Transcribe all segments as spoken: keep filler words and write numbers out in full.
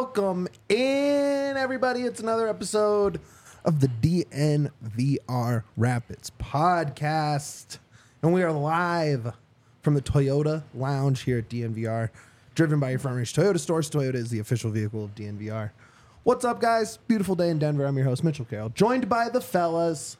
Welcome in, everybody. It's another episode of the D N V R Rapids podcast. And we are live from the Toyota Lounge here at D N V R, driven by your Front Range Toyota stores. Toyota is the official vehicle of D N V R. What's up, guys? Beautiful day in Denver. I'm your host, Mitchell Carroll, joined by the fellas.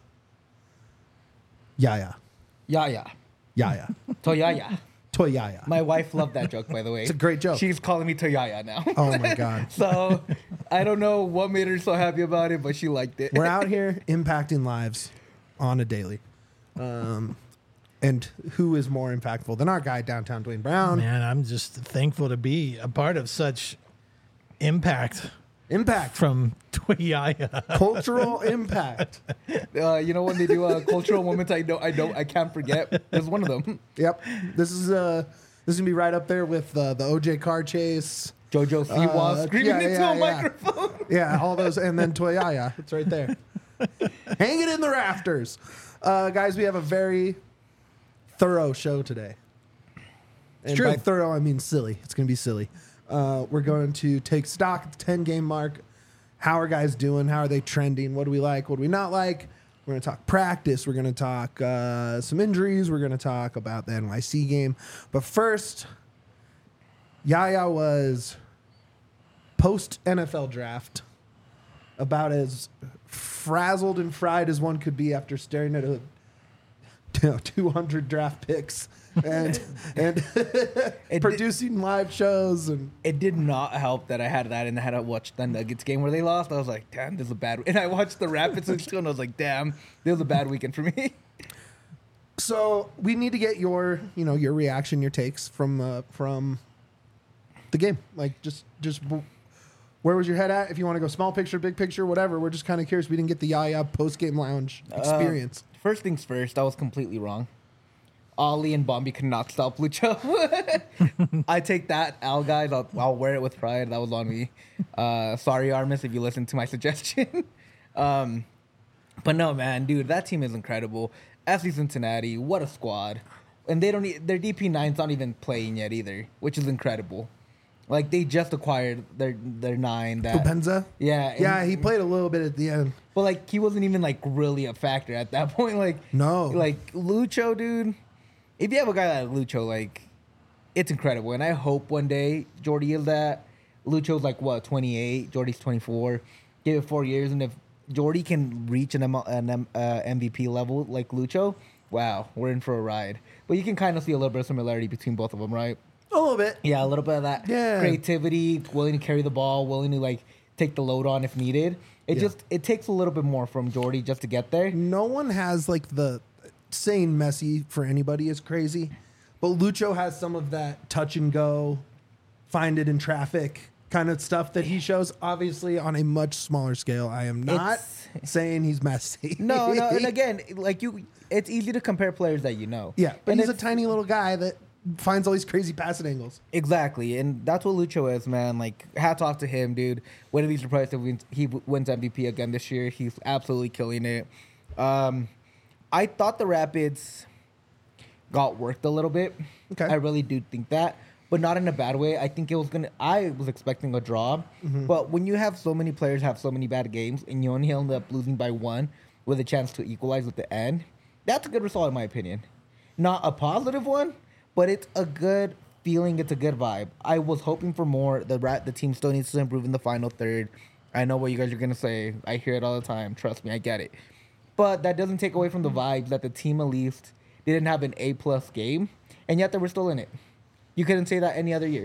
Yaya. Yaya. Yaya. Toyaya. Toyaya. My wife loved that joke, by the way. It's a great joke. She's calling me Toyaya now. Oh, my God. So, I don't know what made her so happy about it, but she liked it. We're out here impacting lives on a daily. Um, and who is more impactful than our guy downtown, Dwayne Brown? Man, I'm just thankful to be a part of such impact Impact. from Toyaya. Cultural impact. Uh, you know when they do uh, cultural moments, I don't, I don't, I can't forget. There's one of them. Yep. This is uh, this is gonna be right up there with uh, the O J car chase. Jojo Siwa Uh, screaming yeah, into yeah, a yeah. microphone. Yeah, all those, and then Toyaya. It's right there. Hang it in the rafters, uh, guys. We have a very thorough show today. And true. by thorough, I mean silly. It's gonna be silly. Uh, we're going to take stock at the ten game mark. How are guys doing? How are they trending? What do we like? What do we not like? We're going to talk practice. We're going to talk uh, some injuries. We're going to talk about the N Y C game. But first, Yaya was post-N F L draft about as frazzled and fried as one could be after staring at a you know, two hundred draft picks and and producing live shows. And It did not help that I had that and I had to watch the Nuggets game where they lost. I was like, damn, this is a bad. And I watched the Rapids and I was like, damn, this was a bad weekend for me. so we need to get your you know your reaction, your takes from uh, from the game. Like just just w- where was your head at? If you want to go small picture, big picture, whatever. We're just kind of curious. We didn't get the Yaya post game lounge experience. Uh, first things first, I was completely wrong. Ollie and Bombi could not stop Lucho. I take that, Al guys. I'll, I'll wear it with pride. That was on me. Uh, sorry, Armis, if you listened to my suggestion. um, but no, man, dude, that team is incredible. F C Cincinnati, what a squad! And they don't. e- Their D P nine's not even playing yet either, which is incredible. Like they just acquired their their nine. That Pupenza? yeah, and- Yeah, he played a little bit at the end. But like he wasn't even like really a factor at that point. Like No. like Lucho, dude. If you have a guy like Lucho, like it's incredible. And I hope one day Jordy is that. Lucho's like what twenty-eight, Jordy's twenty-four. Give it four years, and if Jordy can reach an, M- an M- uh, M V P level like Lucho, wow, we're in for a ride. But you can kind of see a little bit of similarity between both of them, right? A little bit. Yeah, a little bit of that Yeah. creativity, willing to carry the ball, willing to like take the load on if needed. It Yeah. just it takes a little bit more from Jordy just to get there. No one has like the saying Messi for anybody is crazy, but Lucho has some of that touch and go, find it in traffic kind of stuff that he shows. Obviously, on a much smaller scale. I am not It's- saying he's Messi. No, no, and again, like you, it's easy to compare players that you know. yeah, but And he's a it's- tiny little guy that finds all these crazy passing angles. Exactly, and that's what Lucho is, man. Like, hats off to him, dude. Wouldn't be surprised if wins, he w- wins M V P again this year. He's absolutely killing it. Um, I thought the Rapids got worked a little bit. Okay. I really do think that, but not in a bad way. I think it was gonna. I was expecting a draw, Mm-hmm. but when you have so many players have so many bad games, and you only end up losing by one with a chance to equalize at the end, that's a good result in my opinion. Not a positive one, but it's a good feeling. It's a good vibe. I was hoping for more. The rat, the team still needs to improve in the final third. I know what you guys are gonna say. I hear it all the time. Trust me, I get it. But that doesn't take away from the vibe that the team at least didn't have an A plus game, and yet they were still in it. You couldn't say that any other year.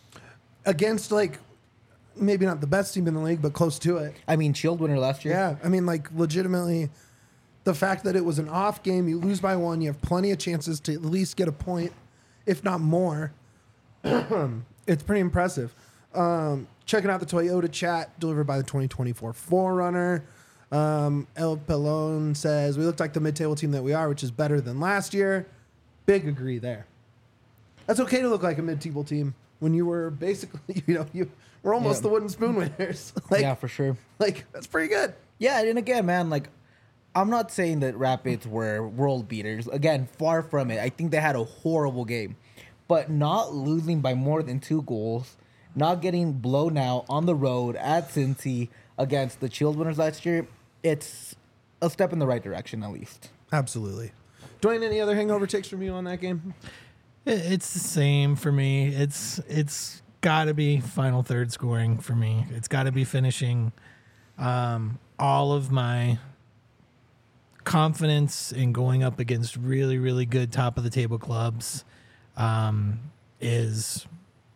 Against like maybe not the best team in the league, but close to it. I mean, Shield winner last year. Yeah, I mean, like legitimately, the fact that it was an off game, you lose by one, you have plenty of chances to at least get a point, if not more. It's pretty impressive. Um, checking out the Toyota chat delivered by the twenty twenty-four four runner. Um, El Pelon says, we looked like the mid-table team that we are, which is better than last year. Big agree there. That's okay to look like a mid-table team when you were basically, you know, you were almost Yeah. the wooden spoon winners. like, yeah, for sure. like, that's pretty good. Yeah, and again, man, like, I'm not saying that Rapids were world beaters. Again, far from it. I think they had a horrible game. But not losing by more than two goals not getting blown out on the road at Cincy against the Shield winners last year, it's a step in the right direction at least. Absolutely. Dwayne, any other hangover takes from you on that game? It- It's the same for me. It's it's got to be final third scoring for me. It's got to be finishing. Um, all of my confidence in going up against really, really good top of the table clubs um, is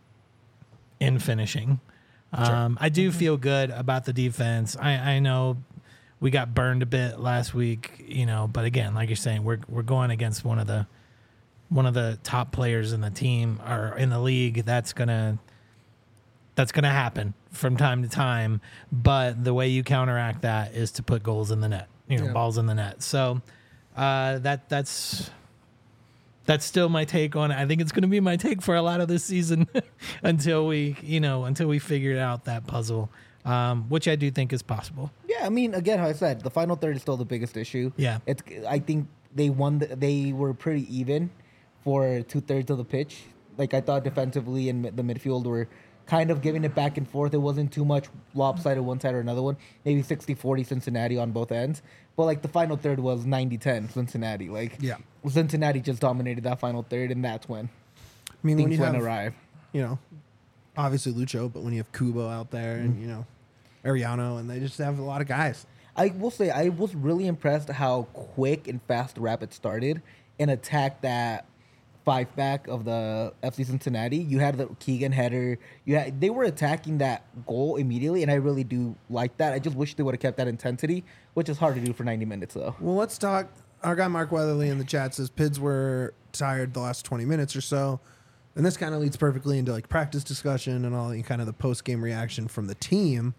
in finishing. Um, I do feel good about the defense. I, I know we got burned a bit last week, you know, but again, like you're saying, we're we're going against one of the one of the top players in the team or in the league. That's gonna that's gonna happen from time to time. But the way you counteract that is to put goals in the net, you know, Yeah. balls in the net. So uh, that that's that's still my take on it. I think it's going to be my take for a lot of this season until we, you know, until we figure out that puzzle, um, which I do think is possible. Yeah, I mean, again, how I said, the final third is still the biggest issue. Yeah. it's. I think they won. The, they were pretty even for two thirds of the pitch. Like I thought, defensively and the midfield were kind of giving it back and forth. It wasn't too much lopsided one side or another one. Maybe sixty forty Cincinnati on both ends. But like the final third was ninety ten Cincinnati. Like Yeah. Cincinnati just dominated that final third, and that's when I mean, when things you went have, awry. you know, obviously Lucho, but when you have Kubo out there and, you know, Ariano, and they just have a lot of guys. I will say I was really impressed how quick and fast Rapid started and attacked that five back of the F C Cincinnati. You had the Keegan header. You had they were attacking that goal immediately, and I really do like that. I just wish they would have kept that intensity, which is hard to do for ninety minutes though. Well, let's talk. Our guy Mark Weatherly in the chat says Pids were tired the last twenty minutes or so. And this kind of leads perfectly into like practice discussion and all, and kind of the post game reaction from the team.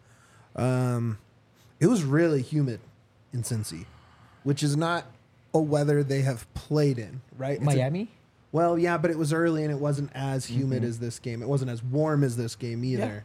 Um, it was really humid in Cincy, which is not a weather they have played in, right? It's a- Miami. well, yeah, but it was early and it wasn't as humid as this game. It wasn't as warm as this game either.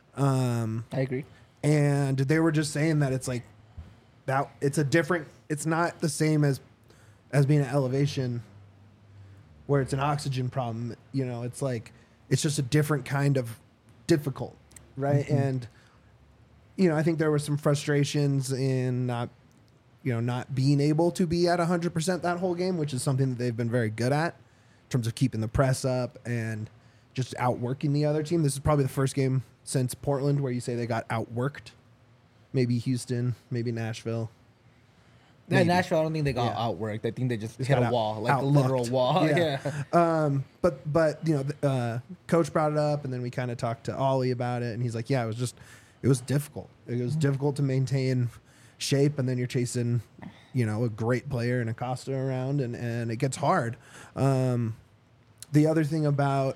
Um, I agree. and they were just saying that it's like that. It's a different. It's not the same as as being at elevation, where it's an oxygen problem. You know, it's like it's just a different kind of difficult, right? And you know, I think there were some frustrations in not, you know, not being able to be at one hundred percent that whole game, which is something that they've been very good at in terms of keeping the press up and just outworking the other team. This is probably the first game since Portland where you say they got outworked. Maybe Houston, maybe Nashville. Yeah, Maybe. Nashville, I don't think they got Yeah. outworked. I think they just, Just hit got a out- wall, like a outlooked. literal wall. Yeah. Yeah. Um, but but you know, th- uh, coach brought it up, and then we kind of talked to Ollie about it, and he's like, "Yeah, it was just, it was difficult. It was difficult to maintain shape, and then you're chasing, you know, a great player and Acosta around, and and it gets hard." Um, the other thing about,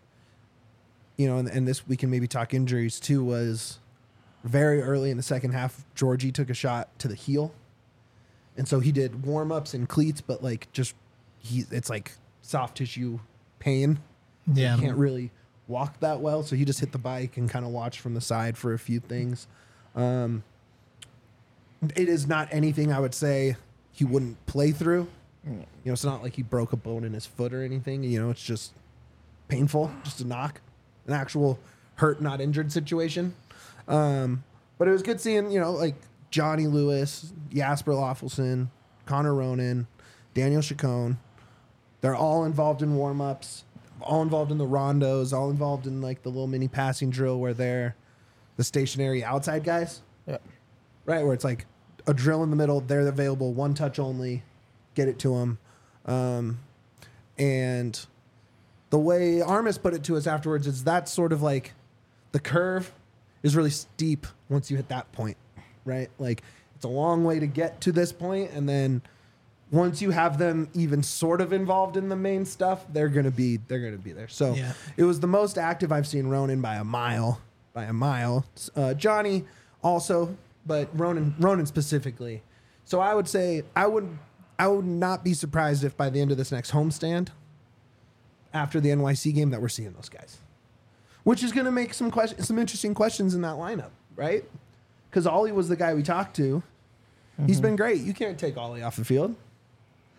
you know, and, and this we can maybe talk injuries too, was very early in the second half, Georgie took a shot to the heel. And so he did warm ups and cleats, but like just he, it's like soft tissue pain. Yeah. He can't really walk that well, so he just hit the bike and kind of watched from the side for a few things. Um, it is not anything I would say he wouldn't play through. You know, it's not like he broke a bone in his foot or anything. You know, it's just painful, just a knock, an actual hurt, not injured situation. Um, but it was good seeing, you know, like Johnny Lewis, Jasper Loffelson, Connor Ronan, Daniel Chacon. They're all involved in warm-ups, all involved in the rondos, all involved in like the little mini passing drill where they're the stationary outside guys, Yeah. right? Where it's like a drill in the middle, they're available, one touch only, get it to them. Um, and the way Armis put it to us afterwards is that's sort of like the curve is really steep once you hit that point, right? Like it's a long way to get to this point, and then once you have them even sort of involved in the main stuff, they're gonna be they're gonna be there. So Yeah. it was the most active I've seen Ronan by a mile, by a mile. Uh, Johnny also, but Ronan Ronan specifically. So I would say I would I would not be surprised if by the end of this next homestand, after the N Y C game, that we're seeing those guys, which is going to make some question, some interesting questions in that lineup, right? Because Ollie was the guy we talked to. He's been great. You can't take Ollie off the field.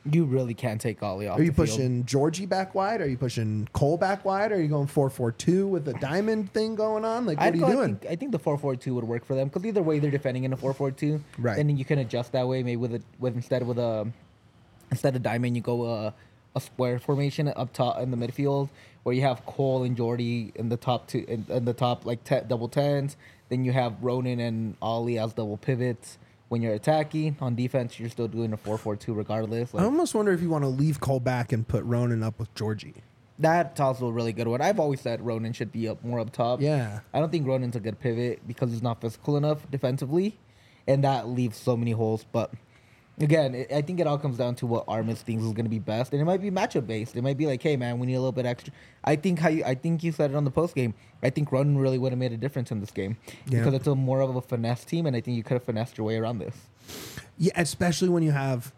You really can't take Ollie off. Are you the field. pushing Georgie back wide? Are you pushing Cole back wide? Are you going four four two with a diamond thing going on? Like, what I'd are you go- doing? I think, I think the four four two would work for them because either way they're defending in a four four two. Right. And then you can adjust that way. Maybe with a with instead of with a instead of diamond, you go a a square formation up top in the midfield, where you have Cole and Jordy in the top two in, in the top like te- double tens. Then you have Ronan and Ollie as double pivots. When you're attacking on defense, you're still doing a four four two regardless. I Like, almost wonder if you want to leave Cole back and put Ronan up with Georgie. that's also a really good one. I've always said Ronan should be up more up top. Yeah. I don't think Ronan's a good pivot because he's not physical enough defensively, and that leaves so many holes. But again, it, I think it all comes down to what Armis thinks is going to be best, and it might be matchup based. It might be like, hey man, we need a little bit extra. I think how you, I think you said it on the post game. I think Ronan really would have made a difference in this game Yeah. because it's a more of a finesse team, and I think you could have finessed your way around this. Yeah, especially when you have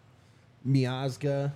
Miazga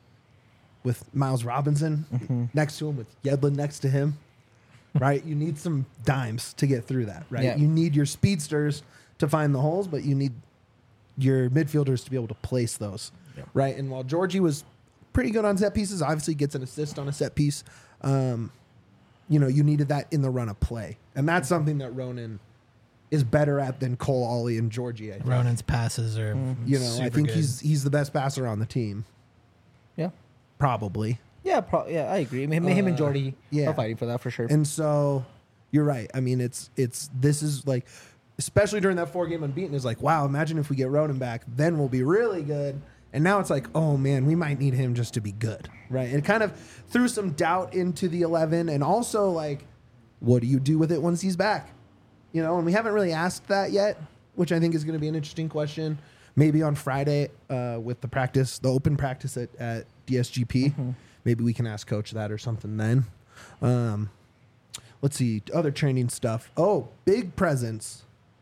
with Miles Robinson Mm-hmm. next to him, with Yedlin next to him, right? You need some dimes to get through that, right? Yeah. You need your speedsters to find the holes, but you need your midfielders to be able to place those, Yeah. right? And while Georgie was pretty good on set pieces, obviously gets an assist on a set piece, um, you know, you needed that in the run of play. And that's something that Ronan is better at than Cole, Ollie, and Georgie, I think. Ronan's passes are, You know, I super think good. he's he's the best passer on the team, Yeah. probably. Yeah, pro- yeah, I agree. I mean, him and Uh, Jordy yeah. are fighting for that for sure. And so you're right. I mean, it's it's this is like, especially during that four game unbeaten, is like, wow, imagine if we get Ronan back, then we'll be really good. And now it's like, oh man, we might need him just to be good, right? And it kind of threw some doubt into the eleven, and also like, what do you do with it once he's back? You know, and we haven't really asked that yet, which I think is going to be an interesting question. Maybe on Friday uh, with the practice, the open practice at, at D S G P, Mm-hmm. maybe we can ask Coach that or something then. Um, let's see, other training stuff. Oh, big presence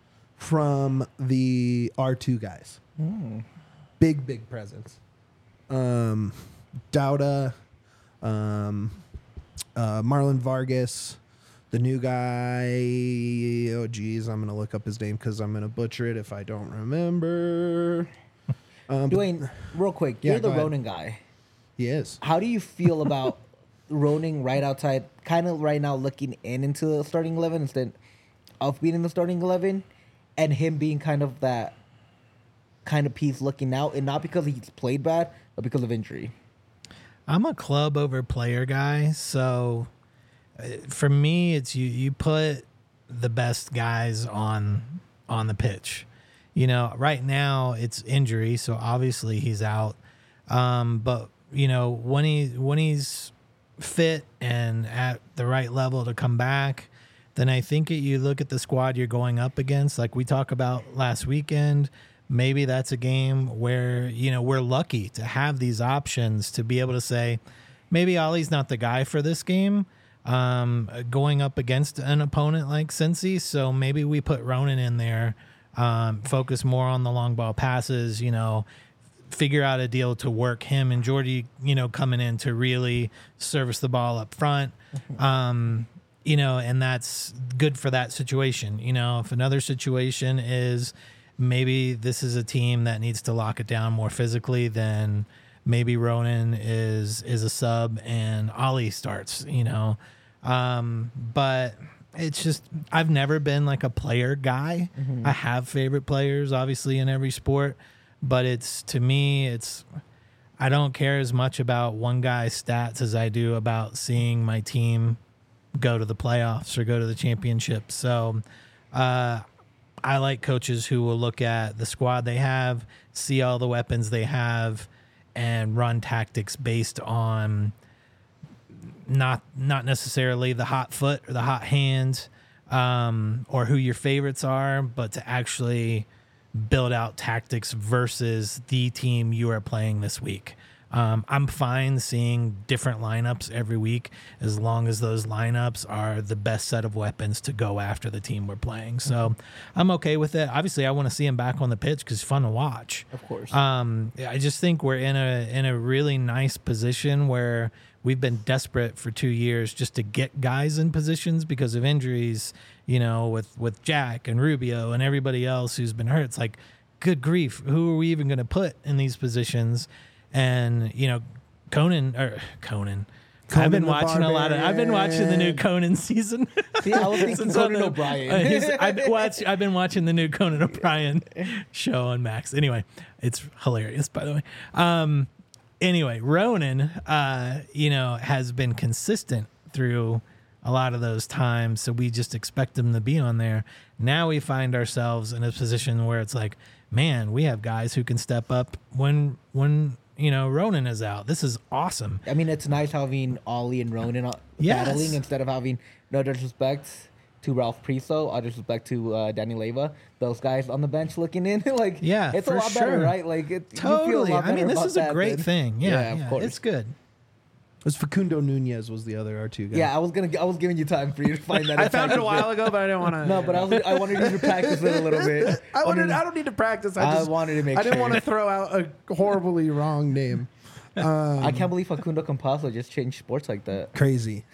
from the R two guys. Mm. Big, big presence. Um, Dauda, um, uh, Marlon Vargas, the new guy. Oh, geez, I'm gonna look up his name because I'm gonna butcher it if I don't remember. Um, but Dwayne, real quick, Yeah, you're the go ahead. Ronan guy. he is. How do you feel about Ronan right outside, kind of right now looking in into the starting eleven instead of being in the starting eleven, and him being kind of that kind of piece looking out, and not because he's played bad, but because of injury. I'm a club over player guy, so uh, for me, it's you. You put the best guys on on the pitch. You know, right now it's injury, so obviously he's out. Um, but you know, when he when he's fit and at the right level to come back, then I think it, you look at the squad you're going up against. Like we talked about last weekend. Maybe that's a game where, you know, we're lucky to have these options to be able to say, maybe Ollie's not the guy for this game, um, going up against an opponent like Cincy. So maybe we put Ronan in there, um, focus more on the long ball passes, you know, figure out a deal to work him and Jordy, you know, coming in to really service the ball up front. Um, you know, and that's good for that situation. You know, if another situation is, maybe this is a team that needs to lock it down more physically, then maybe Ronan is is a sub and Ollie starts, you know. Um, but it's just, I've never been like a player guy. I have favorite players, obviously, in every sport, but it's, to me, it's, I don't care as much about one guy's stats as I do about seeing my team go to the playoffs or go to the championship. So, uh, I like coaches who will look at the squad they have, see all the weapons they have, and run tactics based on not not necessarily the hot foot or the hot hand, um, or who your favorites are, but to actually build out tactics versus the team you are playing this week. Um, I'm fine seeing different lineups every week as long as those lineups are the best set of weapons to go after the team we're playing. So I'm okay with it. Obviously, I want to see him back on the pitch because it's fun to watch. Of course. Um, I just think we're in a in a really nice position where we've been desperate for two years just to get guys in positions because of injuries. You know, with with Jack and Rubio and everybody else who's been hurt. It's like, good grief, who are we even going to put in these positions? and you know, Conan or Conan. Conan I've been the watching a lot of. I've been watching the new Conan season. See, I was thinking Since on Conan the- O'Brien. uh, he's- I've been watch, I've been watching the new Conan O'Brien show on Max. Anyway, it's hilarious, by the way. Um, anyway, Ronan, uh, you know, has been consistent through a lot of those times, so we just expect him to be on there. Now we find ourselves in a position where it's like, man, we have guys who can step up when when you know Ronan is out. This is awesome. I mean, it's nice having Ollie and Ronan uh, Yes. battling instead of having, no disrespect to Ralph Priso, all disrespect to uh, Danny Leva, those guys on the bench looking in. Like, Yeah, it's for a lot better, sure. right? Like, it, you feel a Totally. lot I mean, better this about is a that great than- thing. Yeah, Yeah, yeah, of course. it's good. It was Facundo Nunez was the other R two guy. Yeah, I was gonna, I was giving you time for you to find that. I found it a while ago, but I didn't want to. No, but I was, I wanted you to practice it a little bit. I wanted. Wanted- I don't need to practice. I I just wanted to make I didn't sure. want to throw out a horribly wrong name. I can't believe Facundo Campazzo just changed sports like that. Crazy,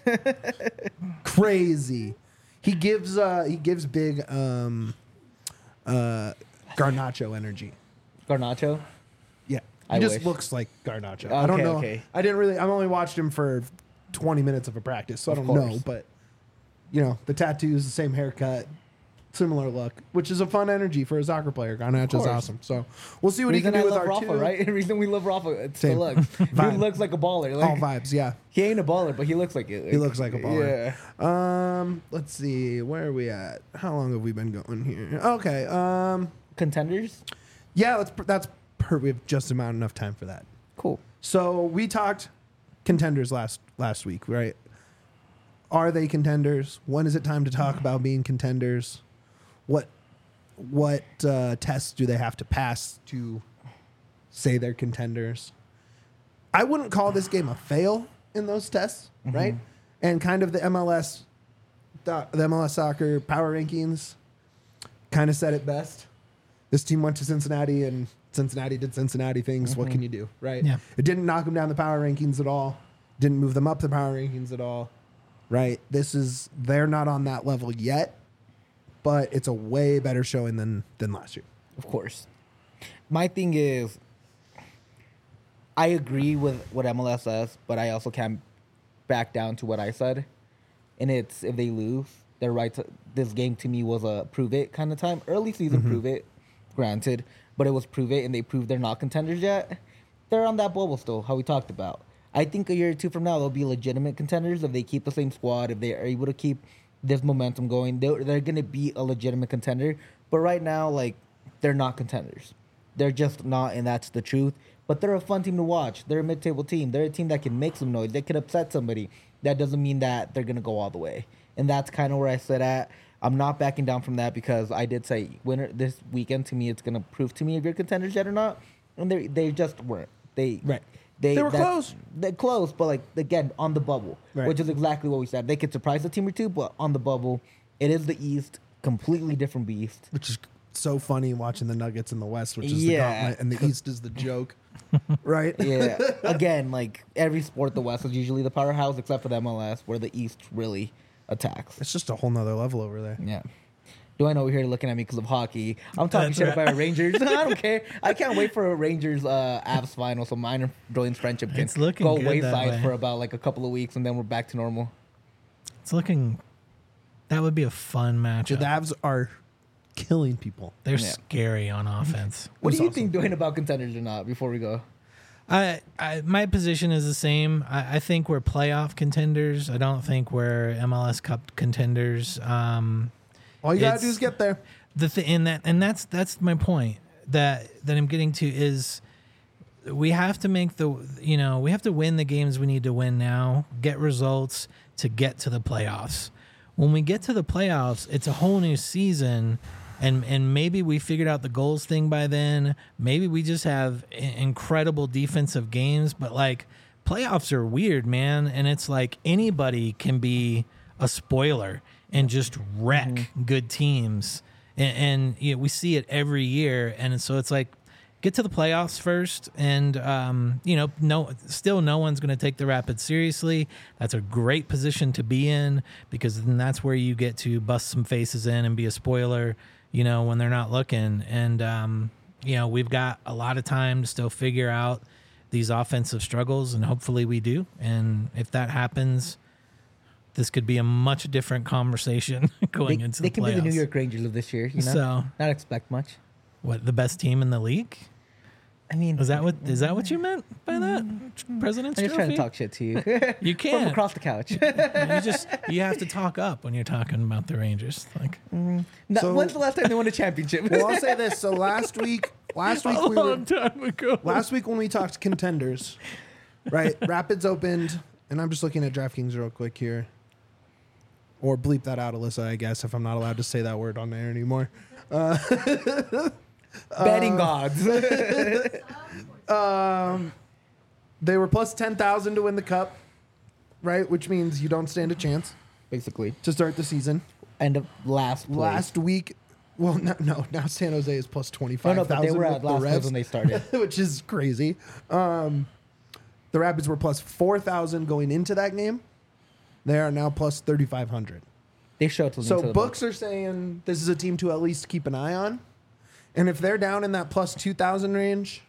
crazy. He gives. Uh, he gives big. Um, uh, Garnacho energy. Garnacho. Yeah, he I just wish. looks like Garnacho. I don't Okay, know. okay. I didn't really. I've only watched him for twenty minutes of a practice, so I Of don't know. course. But you know, the tattoos, the same haircut, similar look, which is a fun energy for a soccer player. Garnacho's course. awesome. So we'll see what Reason he I can do with love our Rafa, two. right? The reason we love Rafa, it's Same. the looks. Vibe. Dude looks like a baller. All Like, vibes, yeah. he ain't a baller, but he looks like it. He looks like a baller. Yeah. Um, let's see, where are we at? How long have we been going here? Okay. Um, Contenders. yeah, let's. That's per. We have just about enough time for that. Cool. So we talked contenders last last week, right? Are they contenders? When is it time to talk about being contenders? What what uh, tests do they have to pass to say they're contenders? I wouldn't call this game a fail in those tests, right? And kind of the M L S, the M L S soccer power rankings, kind of said it best. This team went to Cincinnati and Cincinnati did Cincinnati things. What can you do, right? Yeah. It didn't knock them down the power rankings at all. Didn't move them up the power rankings at all, right? This is they're not on that level yet, but it's a way better showing than than last year. Of course. My thing is, I agree with what M L S says, but I also can't back down to what I said. And it's if they lose, they're right. To, this game to me was a prove it kind of time. Early season prove it, granted, but it was prove it, and they proved they're not contenders yet. They're on that bubble still, how we talked about. I think a year or two from now, they'll be legitimate contenders if they keep the same squad, if they are able to keep this momentum going. They're, they're going to be a legitimate contender. But right now, like, they're not contenders. They're just not, and that's the truth. But they're a fun team to watch. They're a mid-table team. They're a team that can make some noise. They could upset somebody. That doesn't mean that they're going to go all the way. And that's kind of where I sit at. I'm not backing down from that because I did say winner this weekend, to me, it's going to prove to me if you're contenders yet or not. And they they just weren't. They Right. They, They were that's- close. They're close, but like again on the bubble, Right. which is exactly what we said. They could surprise a team or two, but on the bubble, it is the East, completely different beast. Which is so funny watching the Nuggets in the West, which is Yeah. the gauntlet, and the East is the joke, right? Yeah, again, like every sport, the West is usually the powerhouse, except for the M L S, where the East really attacks. It's just a whole nother level over there. Yeah. Do I know you're here looking at me because of hockey? I'm talking That's shit right. about Rangers. I don't care. I can't wait for a Rangers uh, Avs final so mine and Dwayne's friendship can It's looking go good that wayside way. for about like a couple of weeks and then we're back to normal. It's looking. That would be a fun The matchup. Avs are killing people. They're Yeah. scary on offense. What That's do you awesome. think, Dwayne, about contenders or not? Before we go, I, I my position is the same. I, I think we're playoff contenders. I don't think we're M L S Cup contenders. Um, All you gotta It's- do is get there. the th- and that and that's that's my point that that I'm getting to is we have to make the you know we have to win the games we need to win now, get results to get to the playoffs. When we get to the playoffs, it's a whole new season, and and maybe we figured out the goals thing by then. Maybe we just have i- incredible defensive games, but like playoffs are weird, man, and it's like anybody can be a spoiler and just wreck good teams. And, and you know, we see it every year. And so it's like, get to the playoffs first. And, um, you know, no, still no one's going to take the Rapids seriously. That's a great position to be in because then that's where you get to bust some faces in and be a spoiler, you know, when they're not looking. And, um, you know, we've got a lot of time to still figure out these offensive struggles, and hopefully we do. And if that happens, this could be a much different conversation going They, into they the can playoffs. be the New York Rangers of this year. You know, So- not expect much. What, the best team in the league? I mean, Is that what is that what you meant by that? President's I'm just Trophy? trying to talk shit to you You from can't. across the couch. You just you have to talk up when you're talking about the Rangers. Like No, So- when's the last time they won a championship? Well, I'll say this. So last week, last week a we were long time ago. last week when we talked contenders, right? Rapids opened, and I'm just looking at DraftKings real quick here. Or bleep that out, Alyssa, I guess, if I'm not allowed to say that word on there anymore. Betting gods. Um, they were plus ten thousand to win the cup, right? Which means you don't stand a chance Basically, to start the season. end of last place. Last week, well, no, no, now San Jose is plus Oh, twenty-five no, thousand but they were with at the last place Revs, when they started. which is crazy. Um, the Rapids were plus four thousand going into that game. They are now plus thirty-five hundred. They showed something So to the books are saying this is a team to at least keep an eye on. And if they're down in that plus two thousand range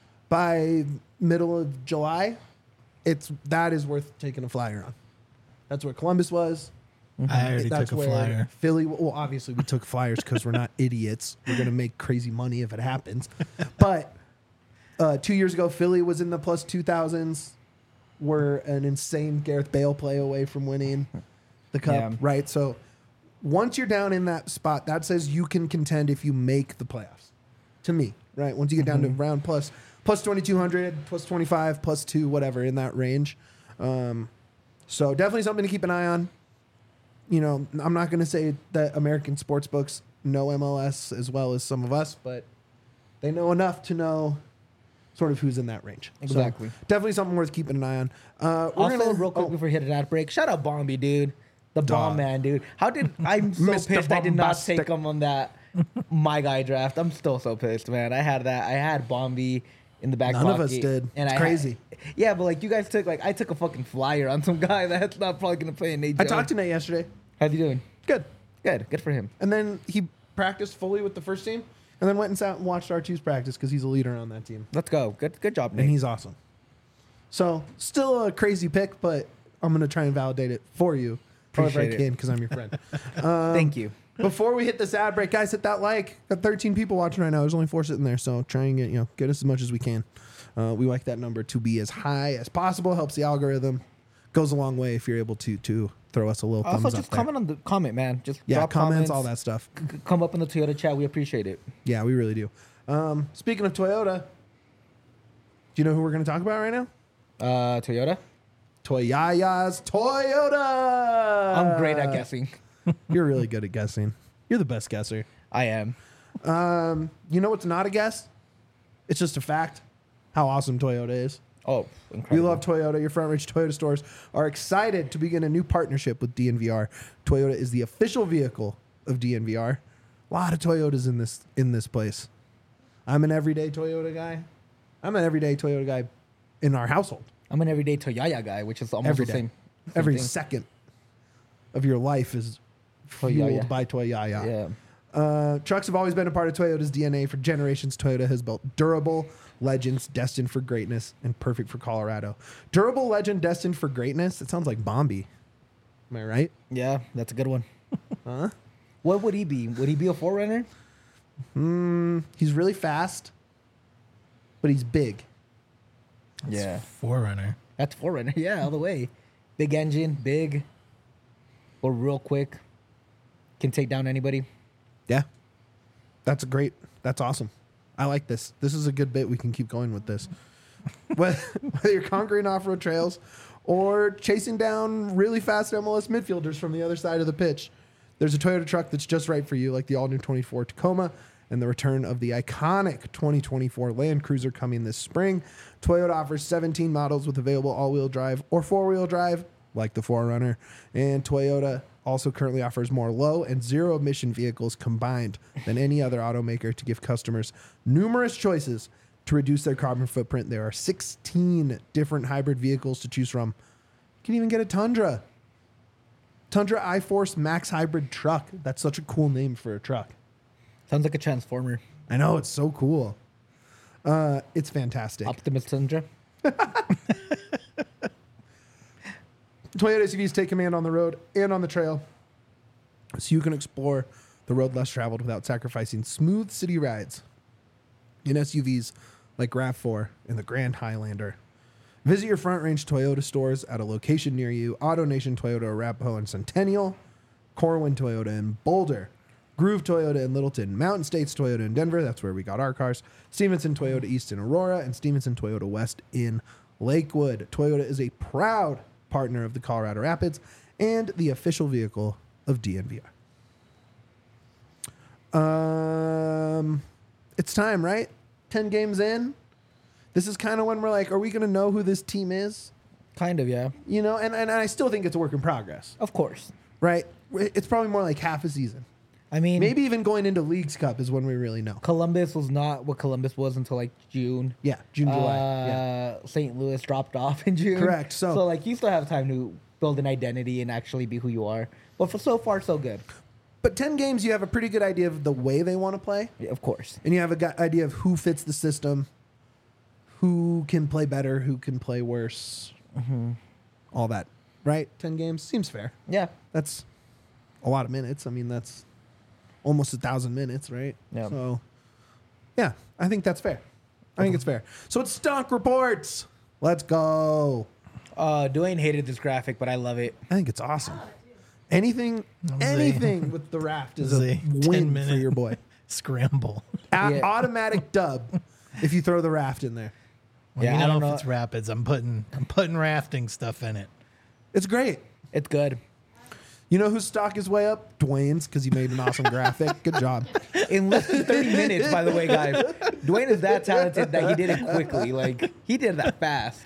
by middle of July, it's that is worth taking a flyer on. That's where Columbus was. I already That's took a where flyer. Philly, well, obviously we took flyers because we're not idiots. We're going to make crazy money if it happens. But uh, two years ago, Philly was in the plus two thousands. We're an insane Gareth Bale play away from winning the cup, Yeah. right? So once you're down in that spot, that says you can contend if you make the playoffs. To me, right? Once you get down Mm-hmm. to round plus plus twenty-two hundred, plus twenty-five, plus two, whatever in that range. Um, so definitely something to keep an eye on. You know, I'm not going to say that American sports books know M L S as well as some of us, but they know enough to know sort of who's in that range. So Exactly. definitely something worth keeping an eye on. Uh, we're Also, gonna, real quick oh, before we hit that break, shout out Bombi, dude. The bomb Dog. man, dude. How did I'm so Mister pissed I did not Bombastic. take him on that my guy draft. I'm still so pissed, man. I had that. I had Bombi in the back None of pocket. us did. And It's I crazy. Had, yeah, but like you guys took like I took a fucking flyer on some guy that's not probably gonna play in Nate I Jones. talked to Nate yesterday. How's he doing? Good. Good. Good for him. And then he practiced fully with the first team and then went and sat and watched R two's practice because he's a leader on that team. Let's go. Good. Good job, And Nate. he's awesome. So still a crazy pick, but I'm going to try and validate it for you. However I Appreciate it. can because I'm your friend. Thank you. Before we hit this ad break, guys, hit that like. Got thirteen people watching right now. There's only four sitting there, so try and get you know get us as much as we can. Uh, we like that number to be as high as possible. Helps the algorithm. Goes a long way if you're able to to throw us a little Also, thumbs just up there. comment on the comment, man. Just Yeah, drop comments, all that stuff. C- come up in the Toyota chat. We appreciate it. Yeah, we really do. Um, speaking of Toyota, do you know who we're going to talk about right now? Uh, Toyota. Toyaya's Toyota. I'm great at guessing. You're really good at guessing. You're the best guesser. I am. Um, you know what's not a guess? It's just a fact. How awesome Toyota is. Oh, We incredible. love Toyota. Your Front Ridge Toyota stores are excited to begin a new partnership with D N V R. Toyota is the official vehicle of D N V R. A lot of Toyotas in this in this place. I'm an everyday Toyota guy. I'm an everyday Toyota guy in our household. I'm an everyday Toyaya guy, which is almost Every the day. same. same Every thing. second of your life is fueled Toyaya. by Toyaya. Yeah. Uh, trucks have always been a part of Toyota's D N A for generations. Toyota has built durable legends destined for greatness and perfect for Colorado. Durable legend destined for greatness. It sounds like Bombi. Am I right? Yeah, that's a good one. Huh? What would he be? Would he be a forerunner? Mm, he's really fast, but he's big. Yeah. Forerunner. That's forerunner. Yeah, all the way. Big engine, big, or real quick. Can take down anybody. Yeah. That's a great. That's awesome. I like this. This is a good bit. We can keep going with this. Whether whether you're conquering off-road trails or chasing down really fast M L S midfielders from the other side of the pitch, there's a Toyota truck that's just right for you, like the all-new twenty-four Tacoma and the return of the iconic twenty twenty-four Land Cruiser coming this spring. Toyota offers seventeen models with available all-wheel drive or four-wheel drive, like the four runner. And Toyota also currently offers more low and zero emission vehicles combined than any other automaker to give customers numerous choices to reduce their carbon footprint. There are sixteen different hybrid vehicles to choose from. You can even get a Tundra. Tundra iForce Max Hybrid Truck. That's such a cool name for a truck. Sounds like a transformer. I know, it's so cool. Uh, it's fantastic. Optimus Tundra. Toyota S U Vs take command on the road and on the trail, so you can explore the road less traveled without sacrificing smooth city rides in S U Vs like RAV four and the Grand Highlander. Visit your Front Range Toyota stores at a location near you. AutoNation Toyota Arapahoe and Centennial, Corwin Toyota in Boulder, Groove Toyota in Littleton, Mountain States Toyota in Denver, that's where we got our cars, Stevenson Toyota East in Aurora, and Stevenson Toyota West in Lakewood. Toyota is a proud partner of the Colorado Rapids and the official vehicle of D N V R. Um, it's time, right? ten games in. This is kind of when we're like, are we going to know who this team is? Kind of, yeah. You know, and, and I still think it's a work in progress, Of course. right? It's probably more like half a season. I mean, Maybe even going into Leagues Cup is when we really know. Columbus was not what Columbus was until like June. Yeah, June, July. Uh, yeah. Saint Louis dropped off in June. Correct, so- so like you still have time to build an identity and actually be who you are. But for so far, so good. But ten games, you have a pretty good idea of the way they want to play, Yeah, of course. and you have a gu- idea of who fits the system, who can play better, who can play worse, all that, right? ten games seems fair. Yeah. That's a lot of minutes. I mean, that's almost a thousand minutes, right? Yeah. So, yeah, I think that's fair. I think it's fair. So it's Stunk Reports. Let's go. Uh, Dwayne hated this graphic, but I love it. I think it's awesome. Anything, That was a- anything with the raft is was a a win ten for minute your boy. Scramble. A- Yeah. Automatic dub if you throw the raft in there. Well, Yeah, you I know don't if know. it's rapids, I'm putting I'm putting rafting stuff in it. It's great. It's good. You know whose stock is way up? Dwayne's, because he made an awesome graphic. Good job. In less than thirty minutes, by the way, guys. Dwayne is that talented that he did it quickly. Like, he did that fast.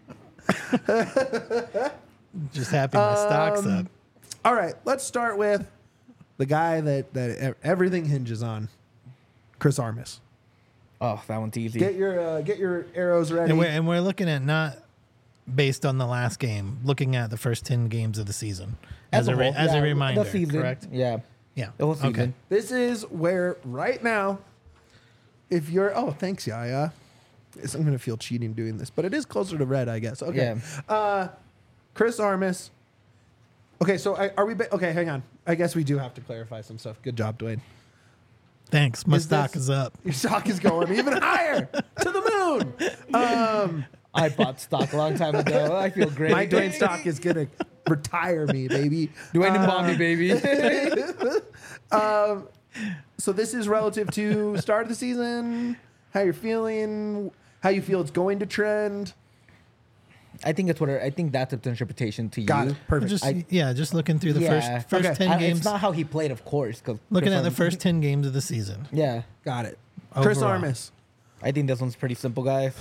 Just happy my stock's Um, up. All right, let's start with the guy that, that e- everything hinges on, Chris Armas. Oh, that one's easy. Get your uh, get your arrows ready. And we're, and we're looking at not based on the last game, looking at the first ten games of the season as, a, re- whole, as yeah, a reminder. The season, Correct? Yeah. Yeah. The whole Okay. season. This is where right now, if you're oh thanks Yaya, Yes, I'm gonna feel cheating doing this, but it is closer to red, I guess. Okay, Yeah. uh, Chris Armas. Okay, so I, are we? Ba- okay, hang on. I guess we do have to clarify some stuff. Good job, Dwayne. Thanks. My Is stock this- is up. Your stock is going even higher to the moon. Um, I bought stock a long time ago. I feel great. my Dwayne stock is gonna retire me, baby. Dwayne and Uh, Bobby, baby. So this is relative to start of the season. How you're feeling? How you feel it's going to trend? I think it's what I think that's its interpretation to Got you. it. Perfect. Just I- yeah, just looking through the Yeah. first first Okay. ten I- games. It's not how he played, of course. Cause Looking Chris at the Armas- first ten games of the season. Yeah, Got it. Chris Overall. Armas, I think this one's pretty simple, guys.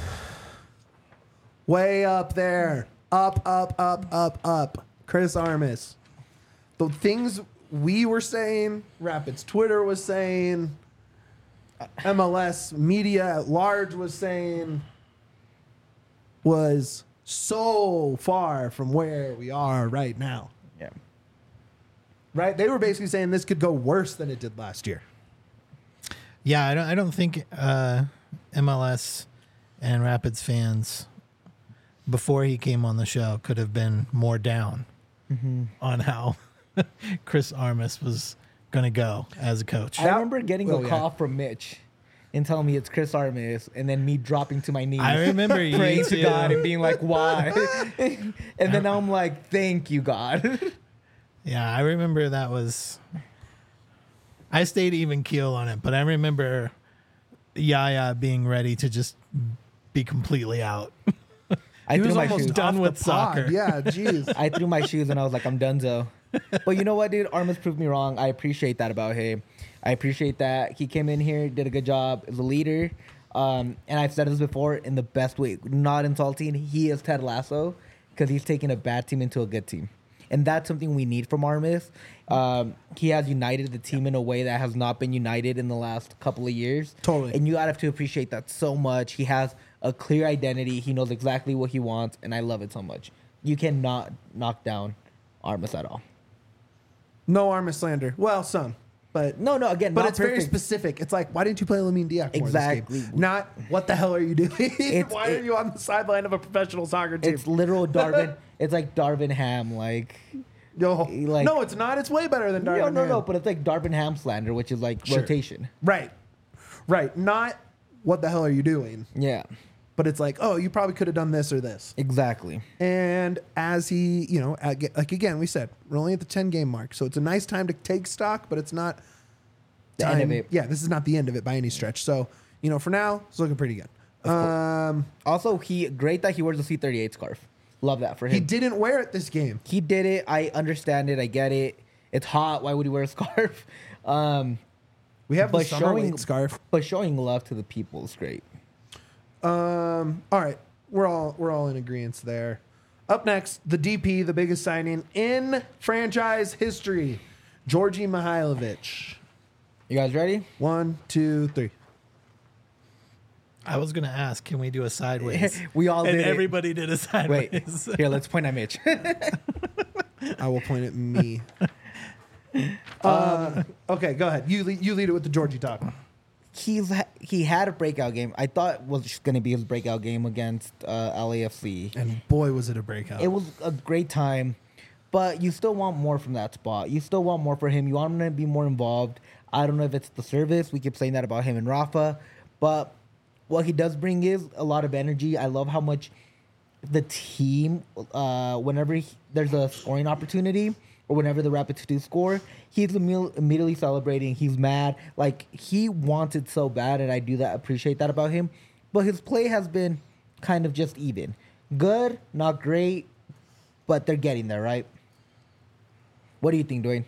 way up there. Up, up, up, up, up. Chris Armas. The things we were saying, Rapids Twitter was saying, M L S media at large was saying, was so far from where we are right now. Yeah. Right? They were basically saying this could go worse than it did last year. Yeah, I don't. I don't think uh, M L S and Rapids fans before he came on the show could have been more down Mm-hmm. on how Chris Armas was going to go as a coach. I remember getting oh, a yeah. call from Mitch and telling me it's Chris Armas, and then me dropping to my knees. I remember you praying to too. God and being like, "Why?" and then I'm like, "Thank you, God." Yeah, I remember that was. I stayed even keel on it, but I remember Yaya being ready to just be completely out. I He threw was my almost shoes. done off with the pod. soccer. Yeah, jeez. I threw my shoes and I was like, I'm donezo. But you know what, dude? Armas proved me wrong. I appreciate that about him. I appreciate that he came in here, did a good job as a leader. Um, and I've said this before in the best way, not insulting. He is Ted Lasso because he's taking a bad team into a good team. And that's something we need from Armas. Um, he has united the team in a way that has not been united in the last couple of years. Totally. And you have to appreciate that so much. He has a clear identity. He knows exactly what he wants, and I love it so much. You cannot knock down Armas at all. No Armas slander. Well, some. But No, no, again, but not it's very perfect. specific. It's like, why didn't you play Lamine Diak more Exactly. this game? Not what the hell are you doing? It's- why it- are you on the sideline of a professional soccer team? It's literal Darvin. It's like Darvin Ham, like Yo, like- no, it's not. It's way better than Darvin no, no, Ham. no. But it's like Darvin Ham slander, which is like Sure. rotation. Right, right. Not what the hell are you doing? Yeah, But it's like, oh, you probably could have done this or this. exactly. And as he, you know, ag- like again, we said we're only at the ten game mark, so it's a nice time to take stock, but it's not The time. end of it. Yeah, this is not the end of it by any stretch. So, you know, for now, it's looking pretty good. Um, Also, he great that he wears the C thirty-eight scarf. Love that for him. he didn't wear it this game. He did it. I understand it. I get it. It's hot. Why would he wear a scarf? Um, We have the But summer showing- weight scarf. but showing love to the people is great. Um, all right, we're all we're all in agreement there. Up next, the D P, the biggest signing in franchise history, Georgi Mihailovic. You guys ready? One, two, three. I was gonna ask, can we do a sideways? We all and did it. everybody did a Wait, sideways. here, let's point at Mitch. I will point at me. Uh, okay, go ahead. You lead, you lead it with the Georgie talk. He's ha- he had a breakout game. I thought was going to be his breakout game against uh, L A F C. And boy, was it a breakout. It was a great time, but you still want more from that spot. You still want more for him. You want him to be more involved. I don't know if it's the service. We keep saying that about him and Rafa, but what he does bring is a lot of energy. I love how much the team, uh, whenever he, there's a scoring opportunity or whenever the Rapids do score, he's imme- immediately celebrating. He's mad. Like, he wants it so bad, and I do that, appreciate that about him. But his play has been kind of just even. Good, not great, but they're getting there, right? What do you think, Dwayne?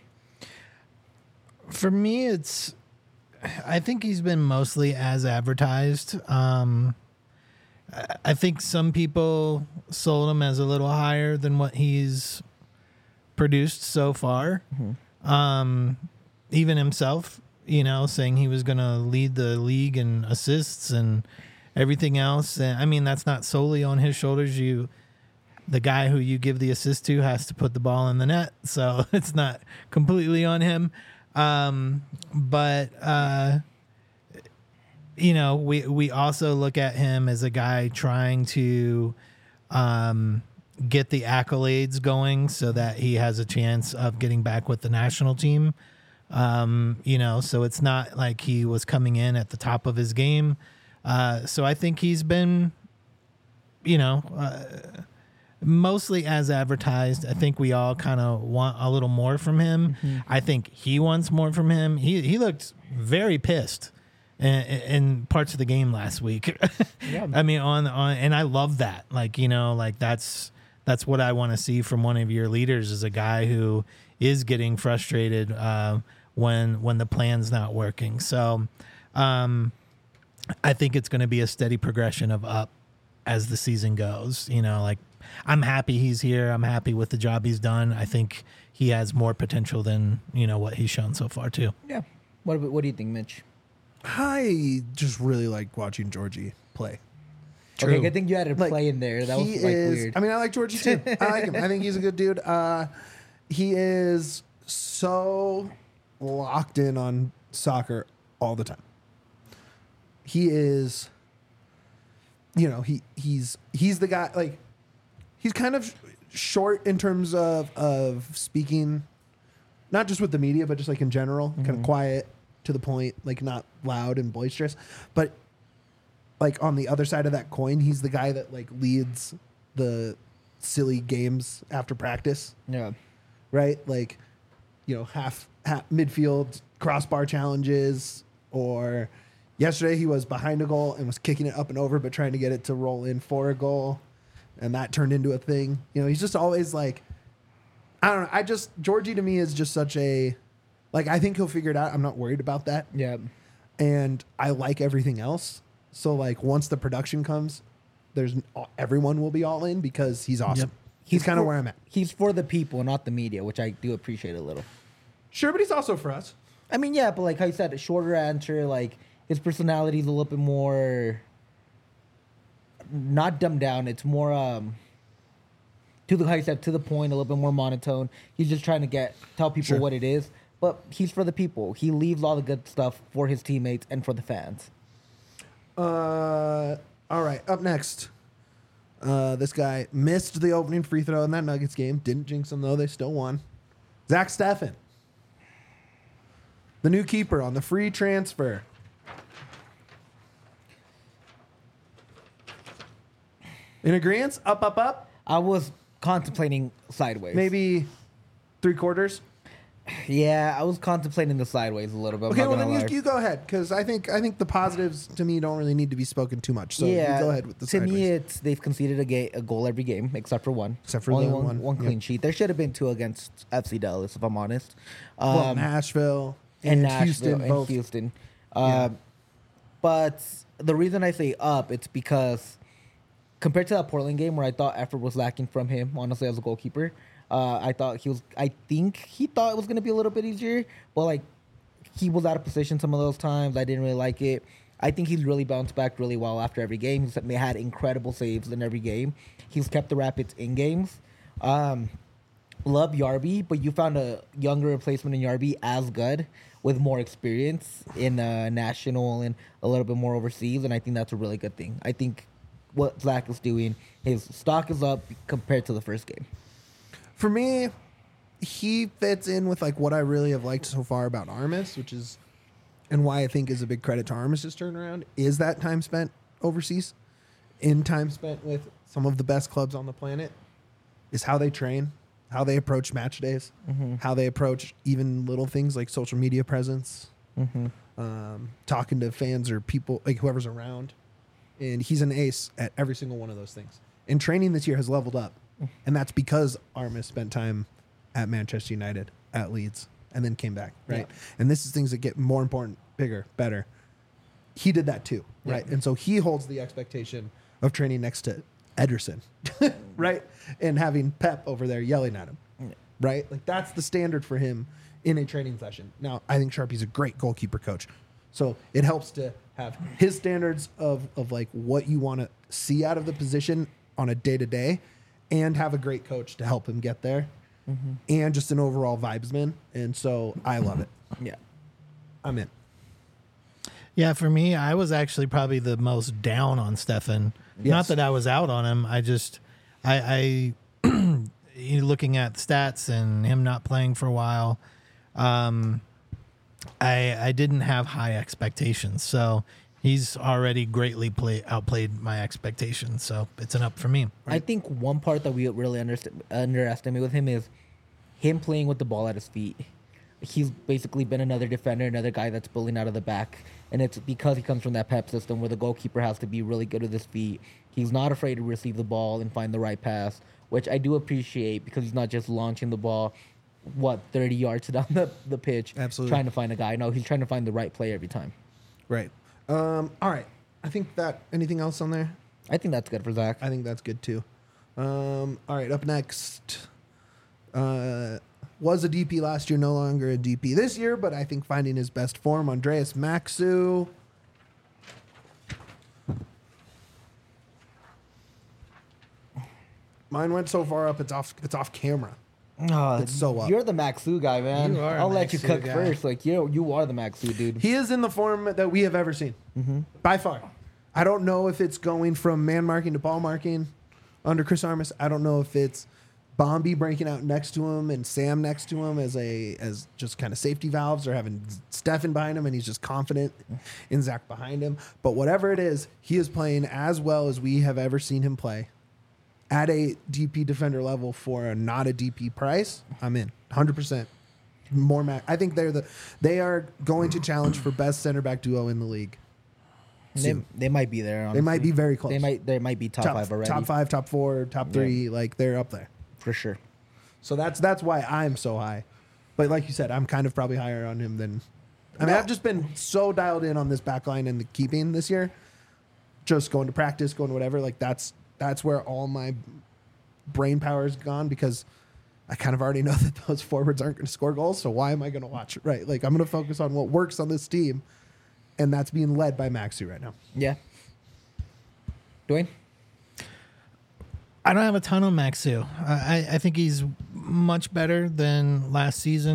For me, it's. I think he's been mostly as advertised. Um, I- I think some people sold him as a little higher than what he's produced so far. Um, even himself, you know, saying he was going to lead the league in assists and everything else. And I mean, that's not solely on his shoulders. You, the guy who you give the assist to, has to put the ball in the net, so it's not completely on him. Um, but uh, you know, we we also look at him as a guy trying to um, get the accolades going so that he has a chance of getting back with the national team. Um, you know, so it's not like he was coming in at the top of his game. Uh, so I think he's been, you know, uh, mostly as advertised. I think we all kind of want a little more from him. Mm-hmm. I think he wants more from him. He he looked very pissed in, in parts of the game last week. Yeah. I mean, on on, and I love that. Like, you know, like that's that's what I want to see from one of your leaders, is a guy who is getting frustrated uh, when when the plan's not working. So, um, I think it's going to be a steady progression of up as the season goes. You know, like, I'm happy he's here. I'm happy with the job he's done. I think he has more potential than, you know, what he's shown so far too. Yeah. What about- What do you think, Mitch? I just really like watching Georgie play. Okay, good thing you had a Like, play in there. That was he like is, weird. I mean, I like Georgie too. I like him. I think he's a good dude. Uh, he is so locked in on soccer all the time. He is, you know, he he's he's the guy. Like, he's kind of short in terms of of speaking, not just with the media, but just like in general, kind of quiet, to the point, like not loud and boisterous. But like on the other side of that coin, he's the guy that like leads the silly games after practice, yeah. right? Like, you know, half, half midfield crossbar challenges, or yesterday he was behind a goal and was kicking it up and over, but trying to get it to roll in for a goal, and that turned into a thing. You know, he's just always like, I don't know. I just Georgie to me is just such a, like, I think he'll figure it out. I'm not worried about that, Yeah. and I like everything else. So like once the production comes, there's everyone will be all in because he's awesome. Yep. He's, kind of for- where I'm at. He's for the people, not the media, which I do appreciate a little. Sure, but he's also for us. I mean, yeah, but like how you said, a shorter answer, like his personality is a little bit more not dumbed down. It's more um to the how you said to the point, a little bit more monotone. He's just trying to get tell people Sure. what it is. but he's for the people. He leaves all the good stuff for his teammates and for the fans. Uh, all right. Up next, uh, this guy missed the opening free throw in that Nuggets game. Didn't jinx them though; they still won. Zach Steffen, the new keeper on the free transfer. In agreement? Up, up, up. I was contemplating sideways. Maybe three quarters. Yeah, I was contemplating the sideways a little bit. I'm Okay, not well gonna then lie. you, you go ahead because I think I think the positives to me don't really need to be spoken too much. So yeah, you go ahead with the to sideways. me, it's they've conceded a, ga- a goal every game except for one. Except for only the one, one, one yep. clean sheet. There should have been two against F C Dallas, if I'm honest. well, Um, Nashville and and, Nashville Houston and both. Houston. Yeah. Um, But the reason I say up, it's because compared to that Portland game where I thought effort was lacking from him, honestly, as a goalkeeper, uh, I thought he was. I think he thought it was going to be a little bit easier, but like he was out of position some of those times. I didn't really like it. I think he's really bounced back really well after every game. He's they had incredible saves in every game. He's kept the Rapids in games. Um, love Yarby, but you found a younger replacement in Yarby as good with more experience in uh, national and a little bit more overseas, and I think that's a really good thing. I think what Zach is doing, his stock is up compared to the first game. For me, he fits in with like what I really have liked so far about Armis, which is, and why I think is a big credit to Armis's turnaround, is that time spent overseas, in time spent with some of the best clubs on the planet, is how they train, how they approach match days, Mm-hmm. how they approach even little things like social media presence, Mm-hmm. um, talking to fans or people, like whoever's around. And he's an ace at every single one of those things. And training this year has leveled up. And that's because Armis spent time at Manchester United, at Leeds, and then came back, right? Yeah. And this is things that get more important, bigger, better. He did that too, right? Yeah. And so he holds the expectation of training next to Ederson, right? And having Pep over there yelling at him, Yeah. right? Like that's the standard for him in a training session. Now, I think Sharpie's a great goalkeeper coach. So it helps to have his standards of, of like what you want to see out of the position on a day to day and have a great coach to help him get there Mm-hmm. and just an overall vibesman. And so I love it. Yeah. I'm in. Yeah, for me, I was actually probably the most down on Stefan. Yes. Not that I was out on him. I just, I, I looking at stats and him not playing for a while, um, I, I didn't have high expectations. So he's already greatly play, outplayed my expectations. So it's an up for me. I think one part that we really underst- underestimate with him is him playing with the ball at his feet. He's basically been another defender, another guy that's building out of the back. And it's because he comes from that Pep system where the goalkeeper has to be really good with his feet. He's not afraid to receive the ball and find the right pass, which I do appreciate because he's not just launching the ball, what, thirty yards down the, the pitch, Absolutely. trying to find a guy. No, he's trying to find the right play every time. Right. Um, all right. I think that anything else on there? I think that's good for Zach. I think that's good too. Um, all right, up next. Uh, was a D P last year, no longer a D P this year, but I think finding his best form, Andreas Maxu. Mine went so far up, it's off. It's off camera. Oh, It's so up. You're the Maxu guy, man. You are a I'll let you Maxu cook guy. first. Like you, you are the Maxu dude. He is in the form that we have ever seen, Mm-hmm. by far. I don't know if it's going from man marking to ball marking under Chris Armas. I don't know if it's Bombi breaking out next to him and Sam next to him as a as just kind of safety valves, or having Stefan behind him and he's just confident in Zach behind him. But whatever it is, he is playing as well as we have ever seen him play at a D P defender level for a not a D P price. I'm in one hundred percent. More Mac. I think they're the they are going to challenge for best center back duo in the league. They, soon. they might be there. Honestly. They might be very close. They might. They might be top, five already. Top five, top four, top three. Like they're up there. for sure. So that's that's why I'm so high. But like you said, I'm kind of probably higher on him than. I mean, No. I've just been so dialed in on this back line and the keeping this year. Just going to practice, going to whatever. Like that's that's where all my brain power is gone, because I kind of already know that those forwards aren't going to score goals. So why am I going to watch it? Right? Like I'm going to focus on what works on this team, and that's being led by Maxi right now. Yeah. Dwayne. I don't have a ton on Maxu. I, I think he's much better than last season.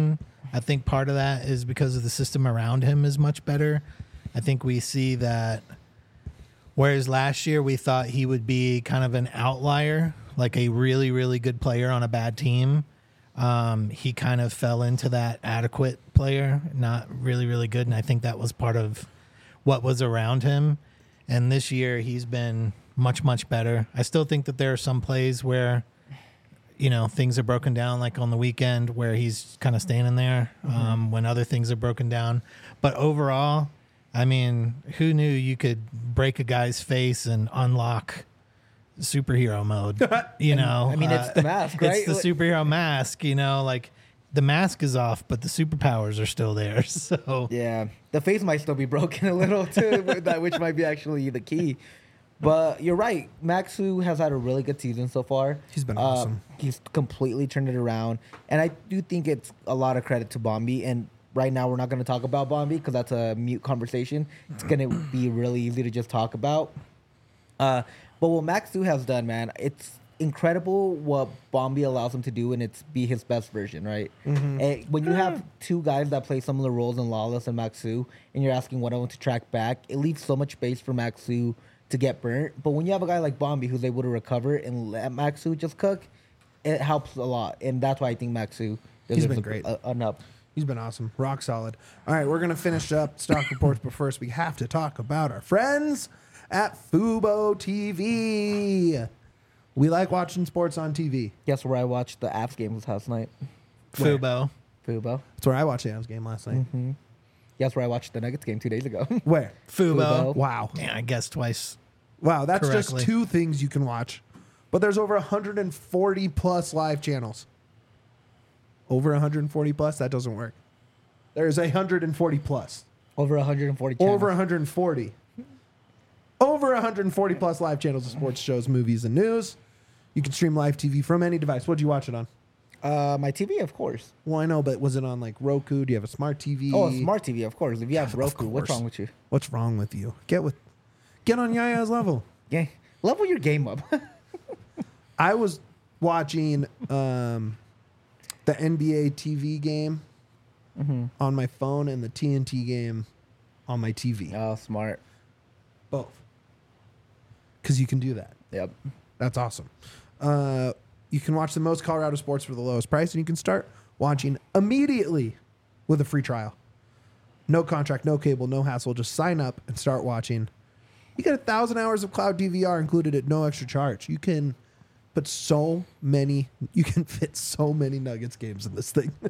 I think part of that is because of the system around him is much better. I think we see that whereas last year we thought he would be kind of an outlier, like a really, really good player on a bad team. Um, he kind of fell into that adequate player, not really, really good. And I think that was part of what was around him. And this year he's been much, much better. I still think that there are some plays where, you know, things are broken down, like on the weekend where he's kind of standing there um, mm-hmm. when other things are broken down. But overall, I mean, who knew you could break a guy's face and unlock superhero mode? You know, I mean, it's the mask, right? It's the superhero mask. You know, like the mask is off, but the superpowers are still there. So yeah, the face might still be broken a little too, which might be actually the key. But you're right. Maxu has had a really good season so far. He's been uh, awesome. He's completely turned it around, and I do think it's a lot of credit to Bombi. And right now, we're not going to talk about Bombi because that's a mute conversation. It's going to be really easy to just talk about. Uh, but what Maxu has done, man, it's incredible what Bombi allows him to do, and it's be his best version, right? Mm-hmm. And when you have two guys that play similar roles in Lawless and Maxu, and you're asking one of them to track back, it leaves so much space for Maxu to get burnt. But when you have a guy like Bombi who's able to recover and let Maxu just cook, it helps a lot. And that's why I think Maxu He's been a, great. A, an up. He's been awesome. Rock solid. All right, we're going to finish up stock reports, but first we have to talk about our friends at Fubo T V. We like watching sports on T V. Guess where I watched the Avs game was last night? Fubo. Fubo. That's where I watched the Avs game last night. Mm-hmm. Guess where I watched the Nuggets game two days ago? Where? Fubo. Fubo. Wow. Yeah, I guess twice. Wow, that's correctly. just two things you can watch. But there's over one hundred forty plus live channels. Over one hundred forty plus? That doesn't work. There's one hundred forty plus. Over one hundred forty channels. Over one hundred forty. Over one hundred forty plus live channels of sports shows, movies, and news. You can stream live T V from any device. What did you watch it on? Uh, my T V, of course. Well, I know, but was it on like Roku? Do you have a smart T V? Oh, a smart T V, of course. If you have Roku, what's wrong with you? What's wrong with you? Get with, get on Yaya's level. Yeah, level your game up. I was watching um, the N B A T V game mm-hmm. on my phone and the T N T game on my T V. Oh, smart. Both. Because you can do that. Yep. That's awesome. Uh, you can watch the most Colorado sports for the lowest price, and you can start watching immediately with a free trial. No contract, no cable, no hassle. Just sign up and start watching. You get a thousand hours of cloud D V R included at no extra charge. You can put so many, you can fit so many Nuggets games in this thing.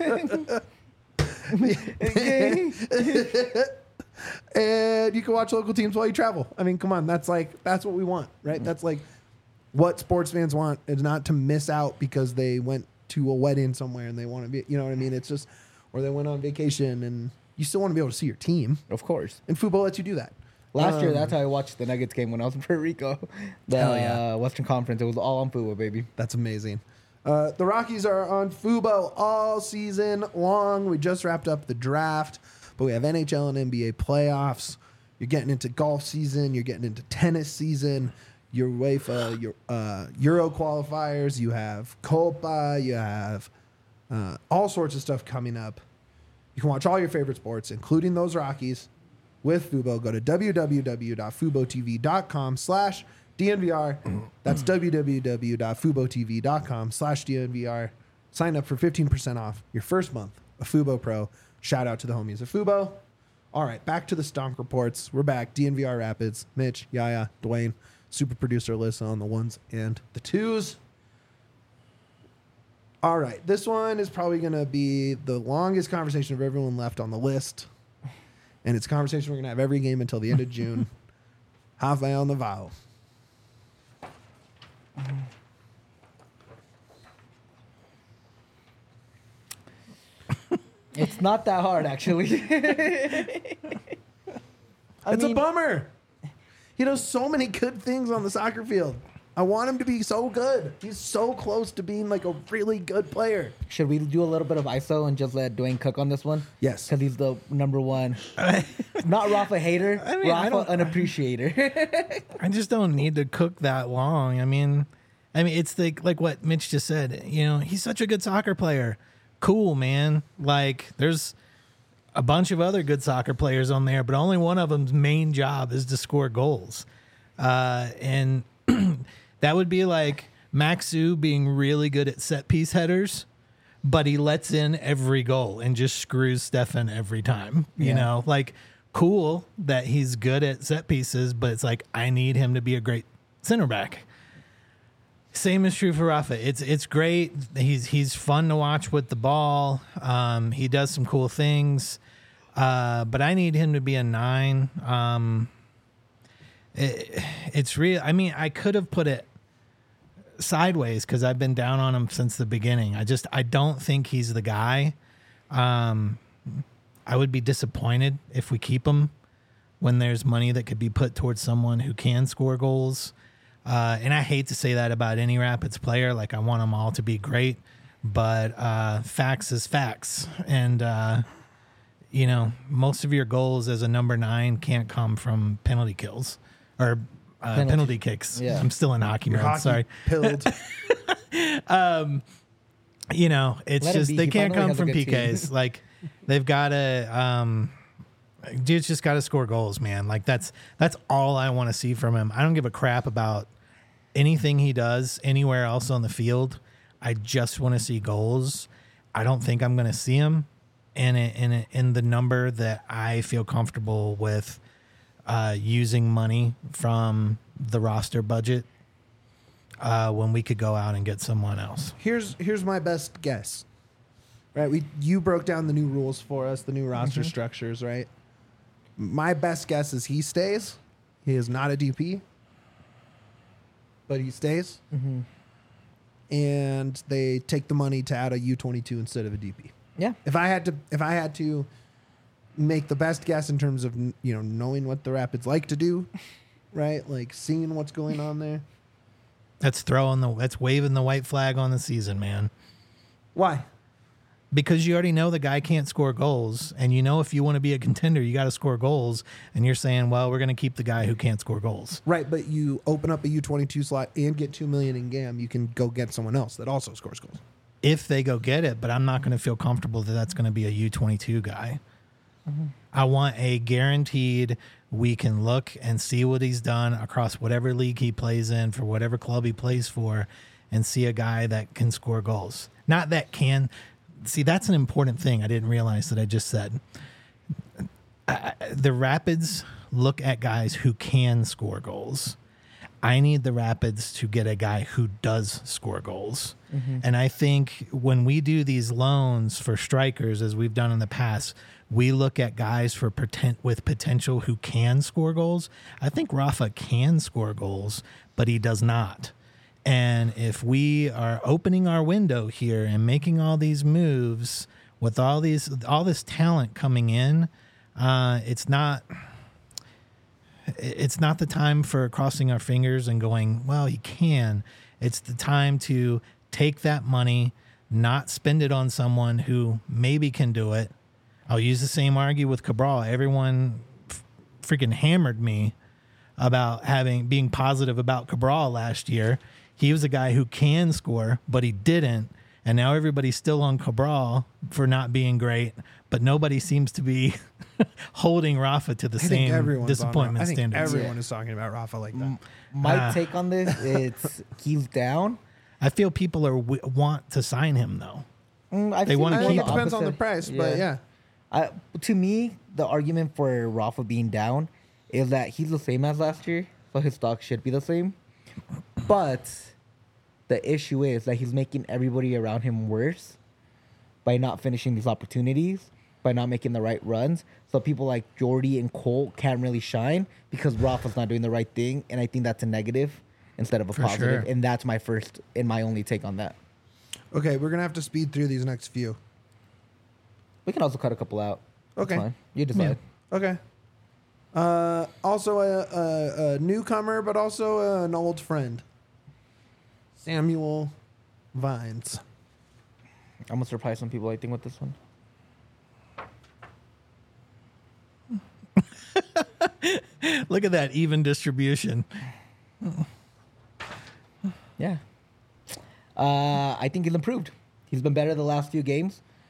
And you can watch local teams while you travel. I mean, come on, that's like that's what we want, right? That's like what sports fans want, is not to miss out because they went to a wedding somewhere and they want to be, you know what I mean? It's just, or they went on vacation and you still want to be able to see your team. Of course. And Fubo lets you do that. Last um, year, that's how I watched the Nuggets game when I was in Puerto Rico. The yeah. uh, Western Conference. It was all on Fubo, baby. That's amazing. Uh, the Rockies are on Fubo all season long. We just wrapped up the draft, but we have N H L and N B A playoffs. You're getting into golf season. You're getting into tennis season. Your UEFA, your uh, Euro qualifiers. You have Copa. You have uh, all sorts of stuff coming up. You can watch all your favorite sports, including those Rockies, with Fubo. Go to www.fubotv.com slash DNVR. That's www.fubotv.com slash DNVR. Sign up for fifteen percent off your first month of Fubo Pro. Shout out to the homies of Fubo. All right, back to the Stonk Reports. We're back. D N V R Rapids. Mitch, Yaya, Dwayne, super producer Alyssa on the ones and the twos. All right, this one is probably going to be the longest conversation of everyone left on the list. And it's a conversation we're going to have every game until the end of June. Rafael Navarro. It's not that hard, actually. I it's mean, a bummer. He does so many good things on the soccer field. I want him to be so good. He's so close to being like a really good player. Should we do a little bit of I S O and just let Dwayne cook on this one? Yes. Because he's the number one. Not Rafa hater, I mean, I Rafa don't- an appreciator. I just don't need to cook that long. I mean, I mean, it's like like what Mitch just said. You know, he's such a good soccer player, cool, man. Like, there's a bunch of other good soccer players on there, but only one of them's main job is to score goals. Uh, and that would be like Maxu being really good at set piece headers, but he lets in every goal and just screws Stefan every time. You Yeah. know, like, cool that he's good at set pieces, but it's like, I need him to be a great center back. Same is true for Rafa. It's it's great. He's he's fun to watch with the ball. Um, he does some cool things, uh, but I need him to be a nine. Um, it, it's real. I mean, I could have put it sideways because I've been down on him since the beginning. I just I don't think he's the guy. Um, I would be disappointed if we keep him when there's money that could be put towards someone who can score goals. Uh, and I hate to say that about any Rapids player. Like, I want them all to be great, but uh, facts is facts. And, uh, you know, most of your goals as a number nine can't come from penalty kills or uh, Penalty. penalty kicks. Yeah. I'm still in hockey Your mode. hockey Sorry. pilled. You know, it's Let him just be. they He can't finally come has a from good P team. Ks. Like, they've got to. Um, dude's just got to score goals, man. Like, that's that's all I want to see from him. I don't give a crap about anything he does anywhere else on the field. I just want to see goals. I don't think I'm going to see him in a, in a, in the number that I feel comfortable with uh, using money from the roster budget uh, when we could go out and get someone else. here's here's my best guess. Right, we you broke down the new rules for us, the new roster Mm-hmm. structures, right? My best guess is he stays. He is not a D P, but he stays. Mm-hmm. And they take the money to add a U twenty-two instead of a D P. Yeah. If I had to, if I had to make the best guess in terms of you know knowing what the Rapids like to do, right? Like seeing what's going on there. That's throwing the that's waving the white flag on the season, man. Why? Because you already know the guy can't score goals, and you know if you want to be a contender, you got to score goals. And you're saying, well, we're going to keep the guy who can't score goals. Right, but you open up a U twenty-two slot and get two million in G A M, you can go get someone else that also scores goals. If they go get it, but I'm not going to feel comfortable that that's going to be a U twenty-two guy. I want a guaranteed, we can look and see what he's done across whatever league he plays in for whatever club he plays for and see a guy that can score goals. Not that can. See, that's an important thing I didn't realize that I just said. I, the Rapids look at guys who can score goals. I need the Rapids to get a guy who does score goals. Mm-hmm. And I think when we do these loans for strikers, as we've done in the past, we look at guys for poten- with potential who can score goals. I think Rafa can score goals, but he does not. And if we are opening our window here and making all these moves with all these all this talent coming in, uh, it's not it's not the time for crossing our fingers and going, well, he can. It's the time to take that money, not spend it on someone who maybe can do it. I'll use the same argument with Cabral. Everyone f- freaking hammered me about having being positive about Cabral last year. He was a guy who can score, but he didn't. And now everybody's still on Cabral for not being great, but nobody seems to be holding Rafa to the I think same everyone's on disappointment Ra- I think standards. everyone is talking about Rafa like that. My Ah. take on this, it's he's down. I feel people are w- want to sign him though. Mm, I've They seen wanna I more think keep it the depends on the opposite. price, but yeah. I, to me, the argument for Rafa being down is that he's the same as last year, so his stock should be the same. But the issue is that he's making everybody around him worse by not finishing these opportunities, by not making the right runs. So people like Jordy and Colt can't really shine because Rafa's not doing the right thing, and I think that's a negative instead of a For positive. sure. And that's my first and my only take on that. Okay, we're gonna have to speed through these next few. We can also cut a couple out. That's Okay. fine. You decide. Okay. Uh, also a, a, a newcomer, but also uh, an old friend. Samuel Vines. I'm gonna surprise some people, I think, with this one. Look at that even distribution. Yeah. Uh, I think he's improved. He's been better the last few games.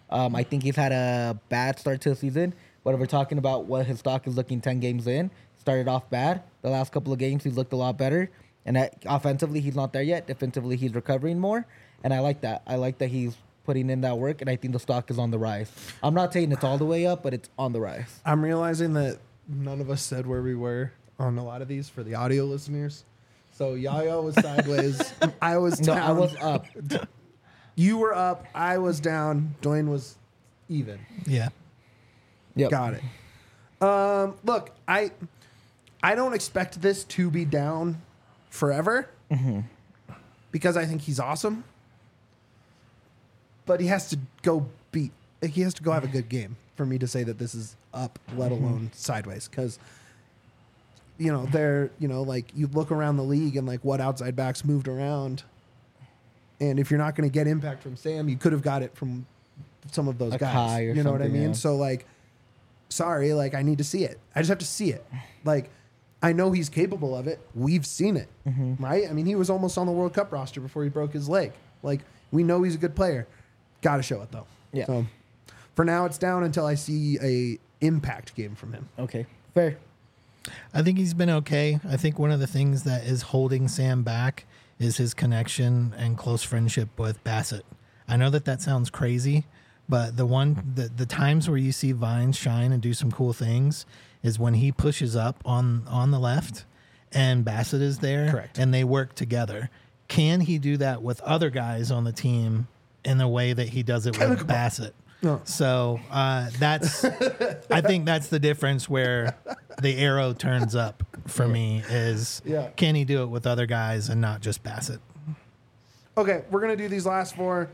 Um, I think he's had a bad start to the season. But if we're talking about what his stock is looking ten games in, started off bad. The last couple of games, he's looked a lot better. And that, offensively, he's not there yet. Defensively, he's recovering more. And I like that. I like that he's putting in that work, and I think the stock is on the rise. I'm not saying it's all the way up, but it's on the rise. I'm realizing that none of us said where we were on a lot of these for the audio listeners. So Yaya was sideways. I was No, down. I was up. You were up. I was down. Dwayne was even. Yeah. Yep. Got it. Um, look, I I don't expect this to be down forever Mm-hmm. because I think he's awesome. But he has to go beat. He has to go have a good game for me to say that this is up, let alone sideways. Because you know they're you know like you look around the league and like what outside backs moved around, and if you're not going to get impact from Sam, you could have got it from some of those A guys. Kai or You know what I something, mean? yeah. So like, sorry, like I need to see it. I just have to see it. Like. I know he's capable of it. We've seen it, Mm-hmm. right? I mean, he was almost on the World Cup roster before he broke his leg. Like, we know he's a good player. Got to show it, though. Yeah. So, for now, it's down until I see a impact game from him. Okay. Fair. I think he's been okay. I think one of the things that is holding Sam back is his connection and close friendship with Bassett. I know that that sounds crazy, but the one the, the times where you see Vines shine and do some cool things is when he pushes up on on the left and Bassett is there. Correct. And they work together. Can he do that with other guys on the team in the way that he does it with Bassett? No. So uh, that's, I think that's the difference where the arrow turns up for me is Yeah. can he do it with other guys and not just Bassett? Okay, we're going to do these last four.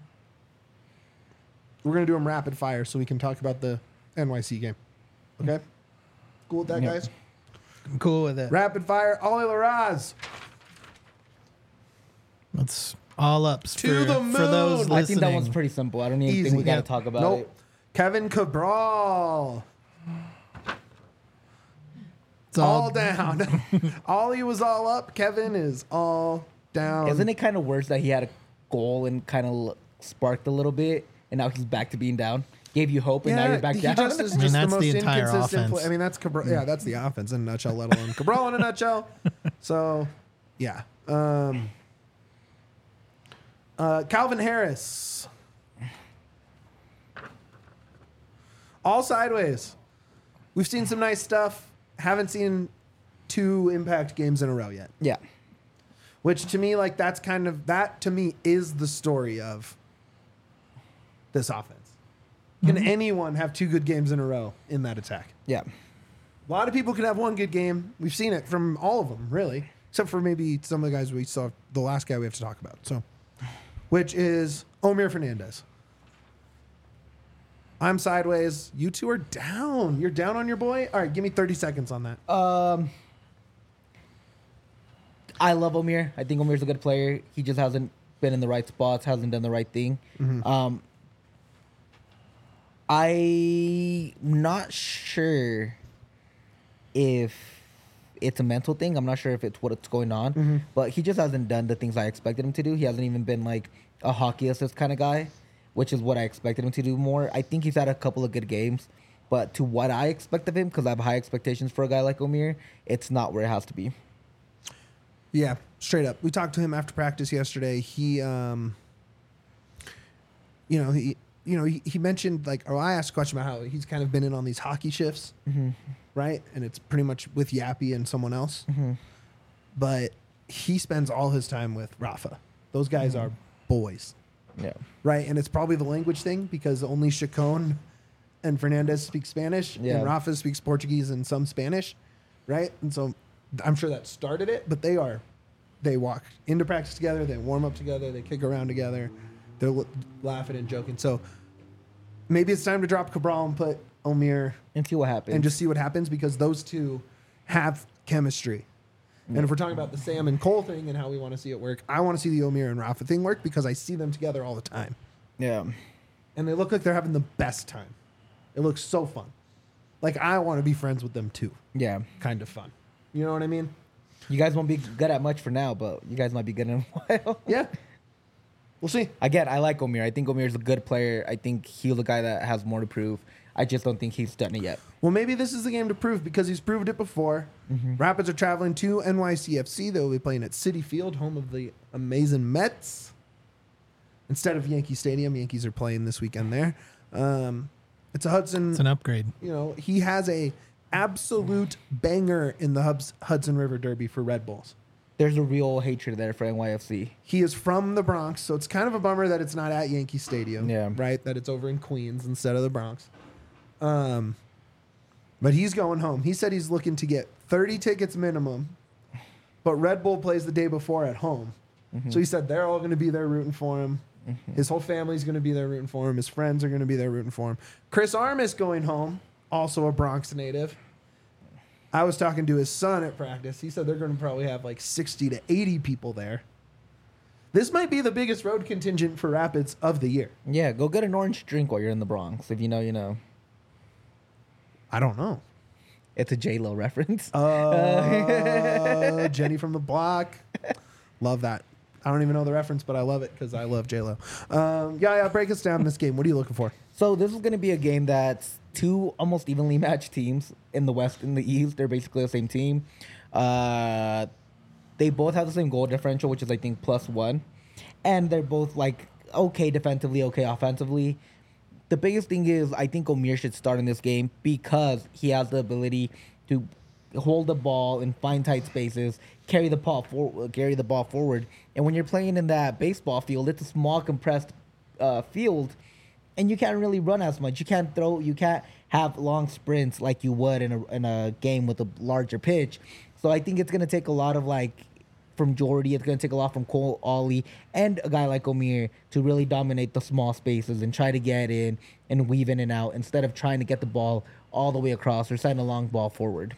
We're going to do them rapid fire so we can talk about the N Y C game. Okay? Cool with that, Yep. guys? I'm cool with it. Rapid fire, Ollie Larraz. It's all ups To for, the for moon. those listening. I think that one's pretty simple. I don't even Easy. think we got to Yeah. talk about Nope. it. Kevin Cabral. It's All all, down. Ollie was all up. Kevin is all down. Isn't it kind of worse that he had a goal and kind of sparked a little bit, and now he's back to being down? Gave you hope, and now you're back he down. just is I mean, just that's the the most entire inconsistent. offense. Play. I mean, that's Cabral. Yeah, that's the offense in a nutshell, let alone Cabral in a nutshell. So, yeah. Um, uh, Calvin Harris. All sideways. We've seen some nice stuff. Haven't seen two impact games in a row yet. Yeah. Which to me, like, that's kind of, that to me is the story of this offense. Can anyone have two good games in a row in that attack? Yeah. A lot of people can have one good game. We've seen it from all of them, really, except for maybe some of the guys we saw, the last guy we have to talk about. So, which is Omir Fernandez. I'm sideways. You two are down. You're down on your boy? All right, give me thirty seconds on that. Um, I love Omir. I think Omir's a good player. He just hasn't been in the right spots, hasn't done the right thing. Um, I'm not sure if it's a mental thing. I'm not sure if it's what's going on, but he just hasn't done the things I expected him to do. He hasn't even been like a hockey assist kind of guy, which is what I expected him to do more. I think he's had a couple of good games, but to what I expect of him, because I have high expectations for a guy like Omir, it's not where it has to be. Yeah, straight up. We talked to him after practice yesterday. He, um, you know, he, you know, he, he mentioned like, or I asked a question about how he's kind of been in on these hockey shifts, right? And it's pretty much with Yappy and someone else. But he spends all his time with Rafa. Those guys are boys, Yeah. right? And it's probably the language thing because only Chacon and Fernandez speak Spanish, Yeah. and Rafa speaks Portuguese and some Spanish, right? And so I'm sure that started it, but they are, they walk into practice together, they warm up together, they kick around together, they're l- laughing and joking. So maybe it's time to drop Cabral and put Omir And see what happens. and just see what happens because those two have chemistry. And if we're talking about the Sam and Cole thing and how we want to see it work, I want to see the Omir and Rafa thing work because I see them together all the time. yeah. And they look like they're having the best time. It looks so fun. Like I want to be friends with them too. Yeah. Kind of fun. You know what I mean? You guys won't be good at much for now, but you guys might be good in a while. Yeah. We'll see. Again, I like Omir. I think Omir is a good player. I think he's a guy that has more to prove. I just don't think he's done it yet. Well, maybe this is the game to prove because he's proved it before. Mm-hmm. Rapids are traveling to N Y C F C. They'll be playing at Citi Field, home of the amazing Mets. Instead of Yankee Stadium, Yankees are playing this weekend there. Um, it's a Hudson. It's an upgrade. You know, he has a absolute banger in the Hubs, Hudson River Derby for Red Bulls. There's a real hatred there for N Y F C. He is from the Bronx, so it's kind of a bummer that it's not at Yankee Stadium. Yeah. Right? That it's over in Queens instead of the Bronx. Um, but he's going home. He said he's looking to get thirty tickets minimum, but Red Bull plays the day before at home. Mm-hmm. So he said they're all going to be there rooting for him. Mm-hmm. His whole family's going to be there rooting for him. His friends are going to be there rooting for him. Chris Armas going home, also a Bronx native. I was talking to his son at practice. He said they're going to probably have like sixty to eighty people there. This might be the biggest road contingent for Rapids of the year. Yeah, go get an orange drink while you're in the Bronx. If you know, you know. I don't know. It's a J-Lo reference. Uh, Jenny from the Block. Love that. I don't even know the reference, but I love it because I love J-Lo. Um, yeah, yeah, break us down this game. What are you looking for? So this is going to be a game that's two almost evenly matched teams in the West and the East. They're basically the same team. Uh, they both have the same goal differential, which is, I think, plus one. And they're both, like, okay defensively, okay offensively. The biggest thing is I think Omir should start in this game because he has the ability to hold the ball and find tight spaces, carry the ball for, carry the ball forward. And when you're playing in that baseball field, it's a small compressed uh, field, and you can't really run as much. You can't throw. You can't have long sprints like you would in a in a game with a larger pitch. So I think it's gonna take a lot of like from Jordy. It's gonna take a lot from Cole Ollie and a guy like Omir to really dominate the small spaces and try to get in and weave in and out instead of trying to get the ball all the way across or send a long ball forward.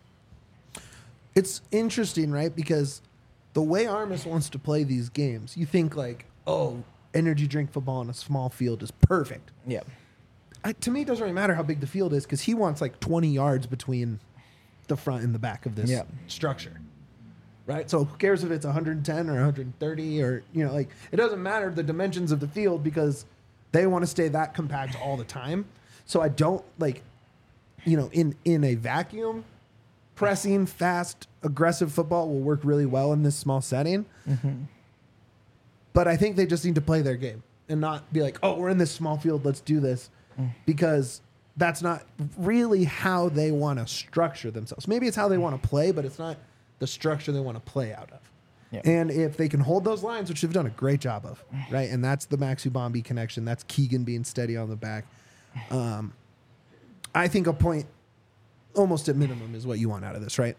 It's interesting, right? Because the way Armas wants to play these games, you think like, oh, energy drink football in a small field is perfect. Yeah. I, to me, it doesn't really matter how big the field is because he wants like twenty yards between the front and the back of this yeah. structure. Right? So who cares if it's one hundred ten or one hundred thirty or, you know, like it doesn't matter the dimensions of the field because they want to stay that compact all the time. So I don't like, you know, in, in a vacuum, pressing, fast, aggressive football will work really well in this small setting. Mm-hmm. But I think they just need to play their game and not be like, oh, we're in this small field, let's do this. Mm. Because that's not really how they want to structure themselves. Maybe it's how they want to play, but it's not the structure they want to play out of. Yeah. And if they can hold those lines, which they've done a great job of, right? And that's the Max Ubambi connection. That's Keegan being steady on the back. Um, I think a point almost at minimum is what you want out of this, right?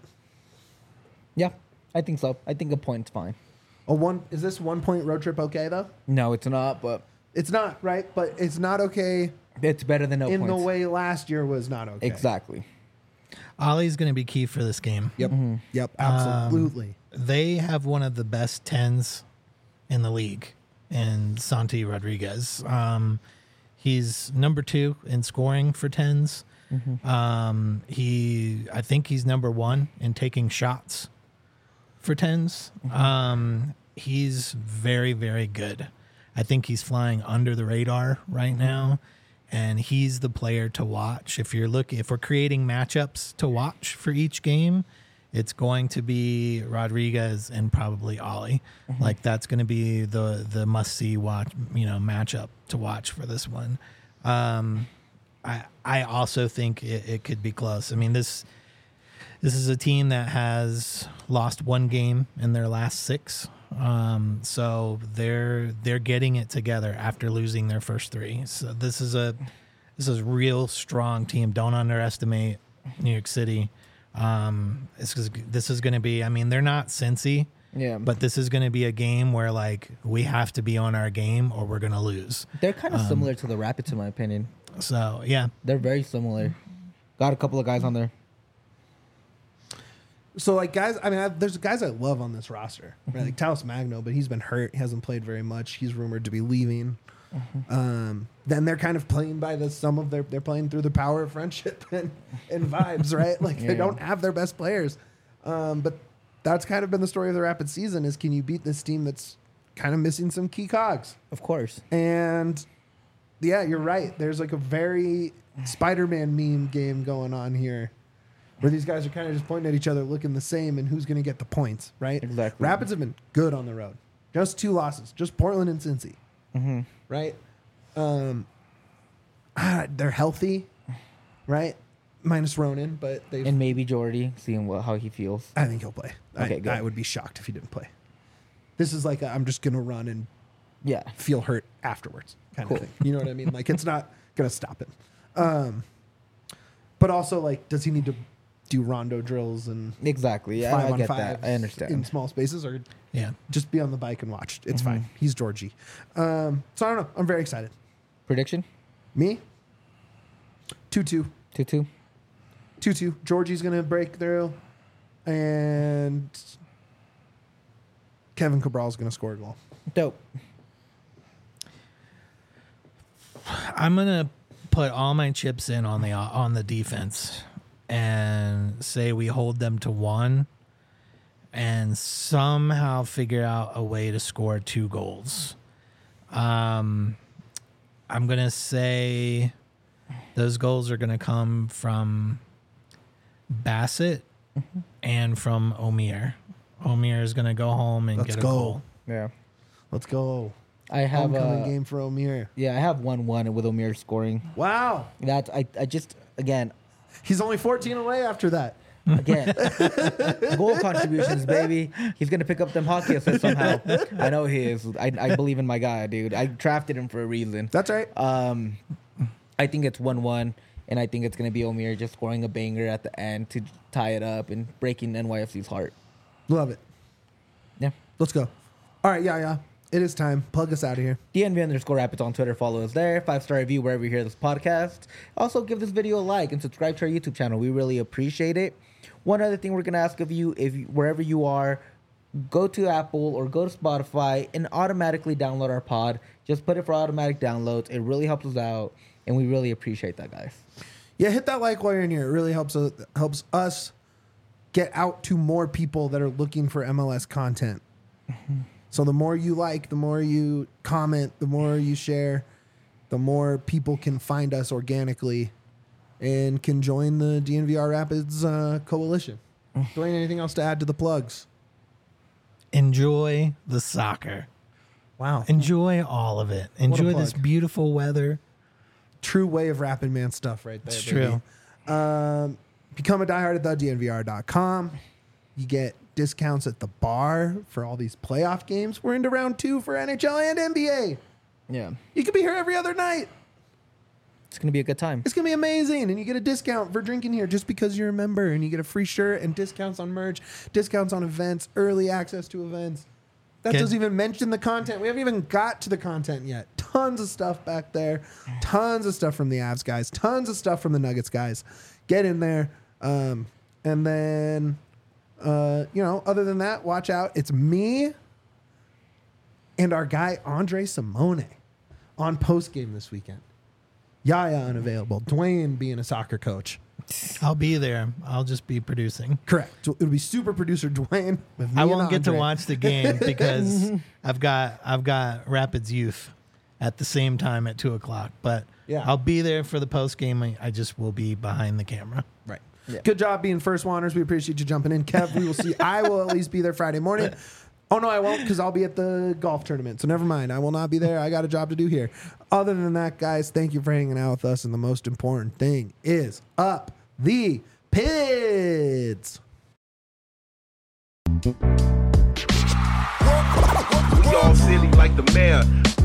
Yeah, I think so. I think a point's fine. A one is this one point road trip okay though? No, it's not, but it's not, right? But it's not okay. It's better than no in points. the way last year was not okay. Exactly. Ollie's going to be key for this game. Yep. Mm-hmm. Yep. Absolutely. Um, they have one of the best tens in the league in Santi Rodriguez. Um, he's number two in scoring for tens. Mm-hmm. Um, he, I think he's number one in taking shots for tens. Mm-hmm. Um, he's very, very good. I think he's flying under the radar right now. And he's the player to watch. If you're looking, if we're creating matchups to watch for each game, it's going to be Rodriguez and probably Ollie. Mm-hmm. Like that's going to be the the must see watch, you know, matchup to watch for this one. Um, I I also think it, it could be close. I mean this this is a team that has lost one game in their last six. Um, so they're they're getting it together after losing their first three. So this is a this is a real strong team. Don't underestimate New York City. Um, this is this is going to be. I mean, they're not Cincy, yeah, but this is going to be a game where like we have to be on our game or we're going to lose. They're kind of um, similar to the Rapids, in my opinion. So yeah, they're very similar. Got a couple of guys on there. So, like, guys, I mean, I, there's guys I love on this roster, right? Like Talos Magno, but he's been hurt. He hasn't played very much. He's rumored to be leaving. Mm-hmm. Um, then they're kind of playing by the some of their, they're playing through the power of friendship and, and vibes, right? Like, yeah. They don't have their best players. Um, but that's kind of been the story of the Rapid season is can you beat this team that's kind of missing some key cogs. Of course. And yeah, you're right. There's like a very Spider-Man meme game going on here where these guys are kind of just pointing at each other, looking the same, and who's going to get the points, right? Exactly. Rapids have been good on the road. Just two losses. Just Portland and Cincy. Mm-hmm. Right? Um, ah, they're healthy, right? Minus Ronan, but they. And maybe Jordy, seeing what how he feels. I think he'll play. Okay, I, good. I would be shocked if he didn't play. This is like i I'm just going to run and Yeah. feel hurt afterwards kind Cool. of thing. You know what I mean? Like, it's not going to stop him. Um, but also, like, does he need to do rondo drills and Exactly. Yeah, five I on get five that. I understand. in small spaces, or Yeah. just be on the bike and watch? It's Mm-hmm. fine. He's Georgie. Um, so I don't know. I'm very excited. Prediction? Me? two two. two two. two two. Georgie's going to break through, and Kevin Cabral's going to score a goal. Dope. I'm gonna put all my chips in on the on the defense and say we hold them to one and somehow figure out a way to score two goals. Um, I'm gonna say those goals are gonna come from Bassett Mm-hmm. and from Omir. Omir is gonna go home and Let's get a go. goal. Yeah. Let's go. I have Homecoming uh, game for Omir. Yeah, I have one one with Omir scoring. Wow. That I, I just again He's only fourteen away after that. again goal contributions, baby. He's gonna pick up them hockey assists somehow. I know he is. I, I believe in my guy, dude. I drafted him for a reason. That's right. Um, I think it's one one, and I think it's gonna be Omir just scoring a banger at the end to tie it up and breaking N Y F C's heart. Love it. Yeah. Let's go. All right, yeah, yeah. It is time. Plug us out of here. D N V underscore Rapids on Twitter. Follow us there. Five star review wherever you hear this podcast. Also, give this video a like and subscribe to our YouTube channel. We really appreciate it. One other thing we're gonna ask of you, if you, wherever you are, go to Apple or go to Spotify and automatically download our pod. Just put it for automatic downloads. It really helps us out, and we really appreciate that, guys. Yeah, hit that like while you're in here. It really helps us, helps us get out to more people that are looking for M L S content. So the more you like, the more you comment, the more you share, the more people can find us organically and can join the D N V R Rapids uh, coalition. Dwayne, anything else to add to the plugs? Enjoy the soccer. Wow. Enjoy all of it. Enjoy this plug. beautiful weather. True way of Rapid Man stuff right there. It's baby. true. Um, become a diehard at the D N V R dot com. You get discounts at the bar for all these playoff games. We're into round two for N H L and N B A. Yeah, You could be here every other night. it's gonna be a good time. It's going to be amazing. And you get a discount for drinking here just because you're a member. And you get a free shirt and discounts on merch, discounts on events, early access to events. That Get- doesn't even mention the content. We haven't even got to the content yet. Tons of stuff back there. Tons of stuff from the Avs guys. Tons of stuff from the Nuggets guys. Get in there. Um, and then, uh, you know, other than that, watch out. It's me and our guy, Andre Simone, on postgame this weekend. Yaya unavailable. Dwayne being a soccer coach. I'll be there. I'll just be producing. Correct. So it'll be super producer Dwayne with me I and won't get to Andre. watch the game because I've got I've got Rapids Youth at the same time at two o'clock. But Yeah. I'll be there for the post game. I, I just will be behind the camera. Right. Yeah. Good job being first waners. We appreciate you jumping in. Kev, we will see. I will at least be there Friday morning. Oh, no, I won't because I'll be at the golf tournament. So never mind. I will not be there. I got a job to do here. Other than that, guys, thank you for hanging out with us. And the most important thing is up the Pids. We all silly like the mayor.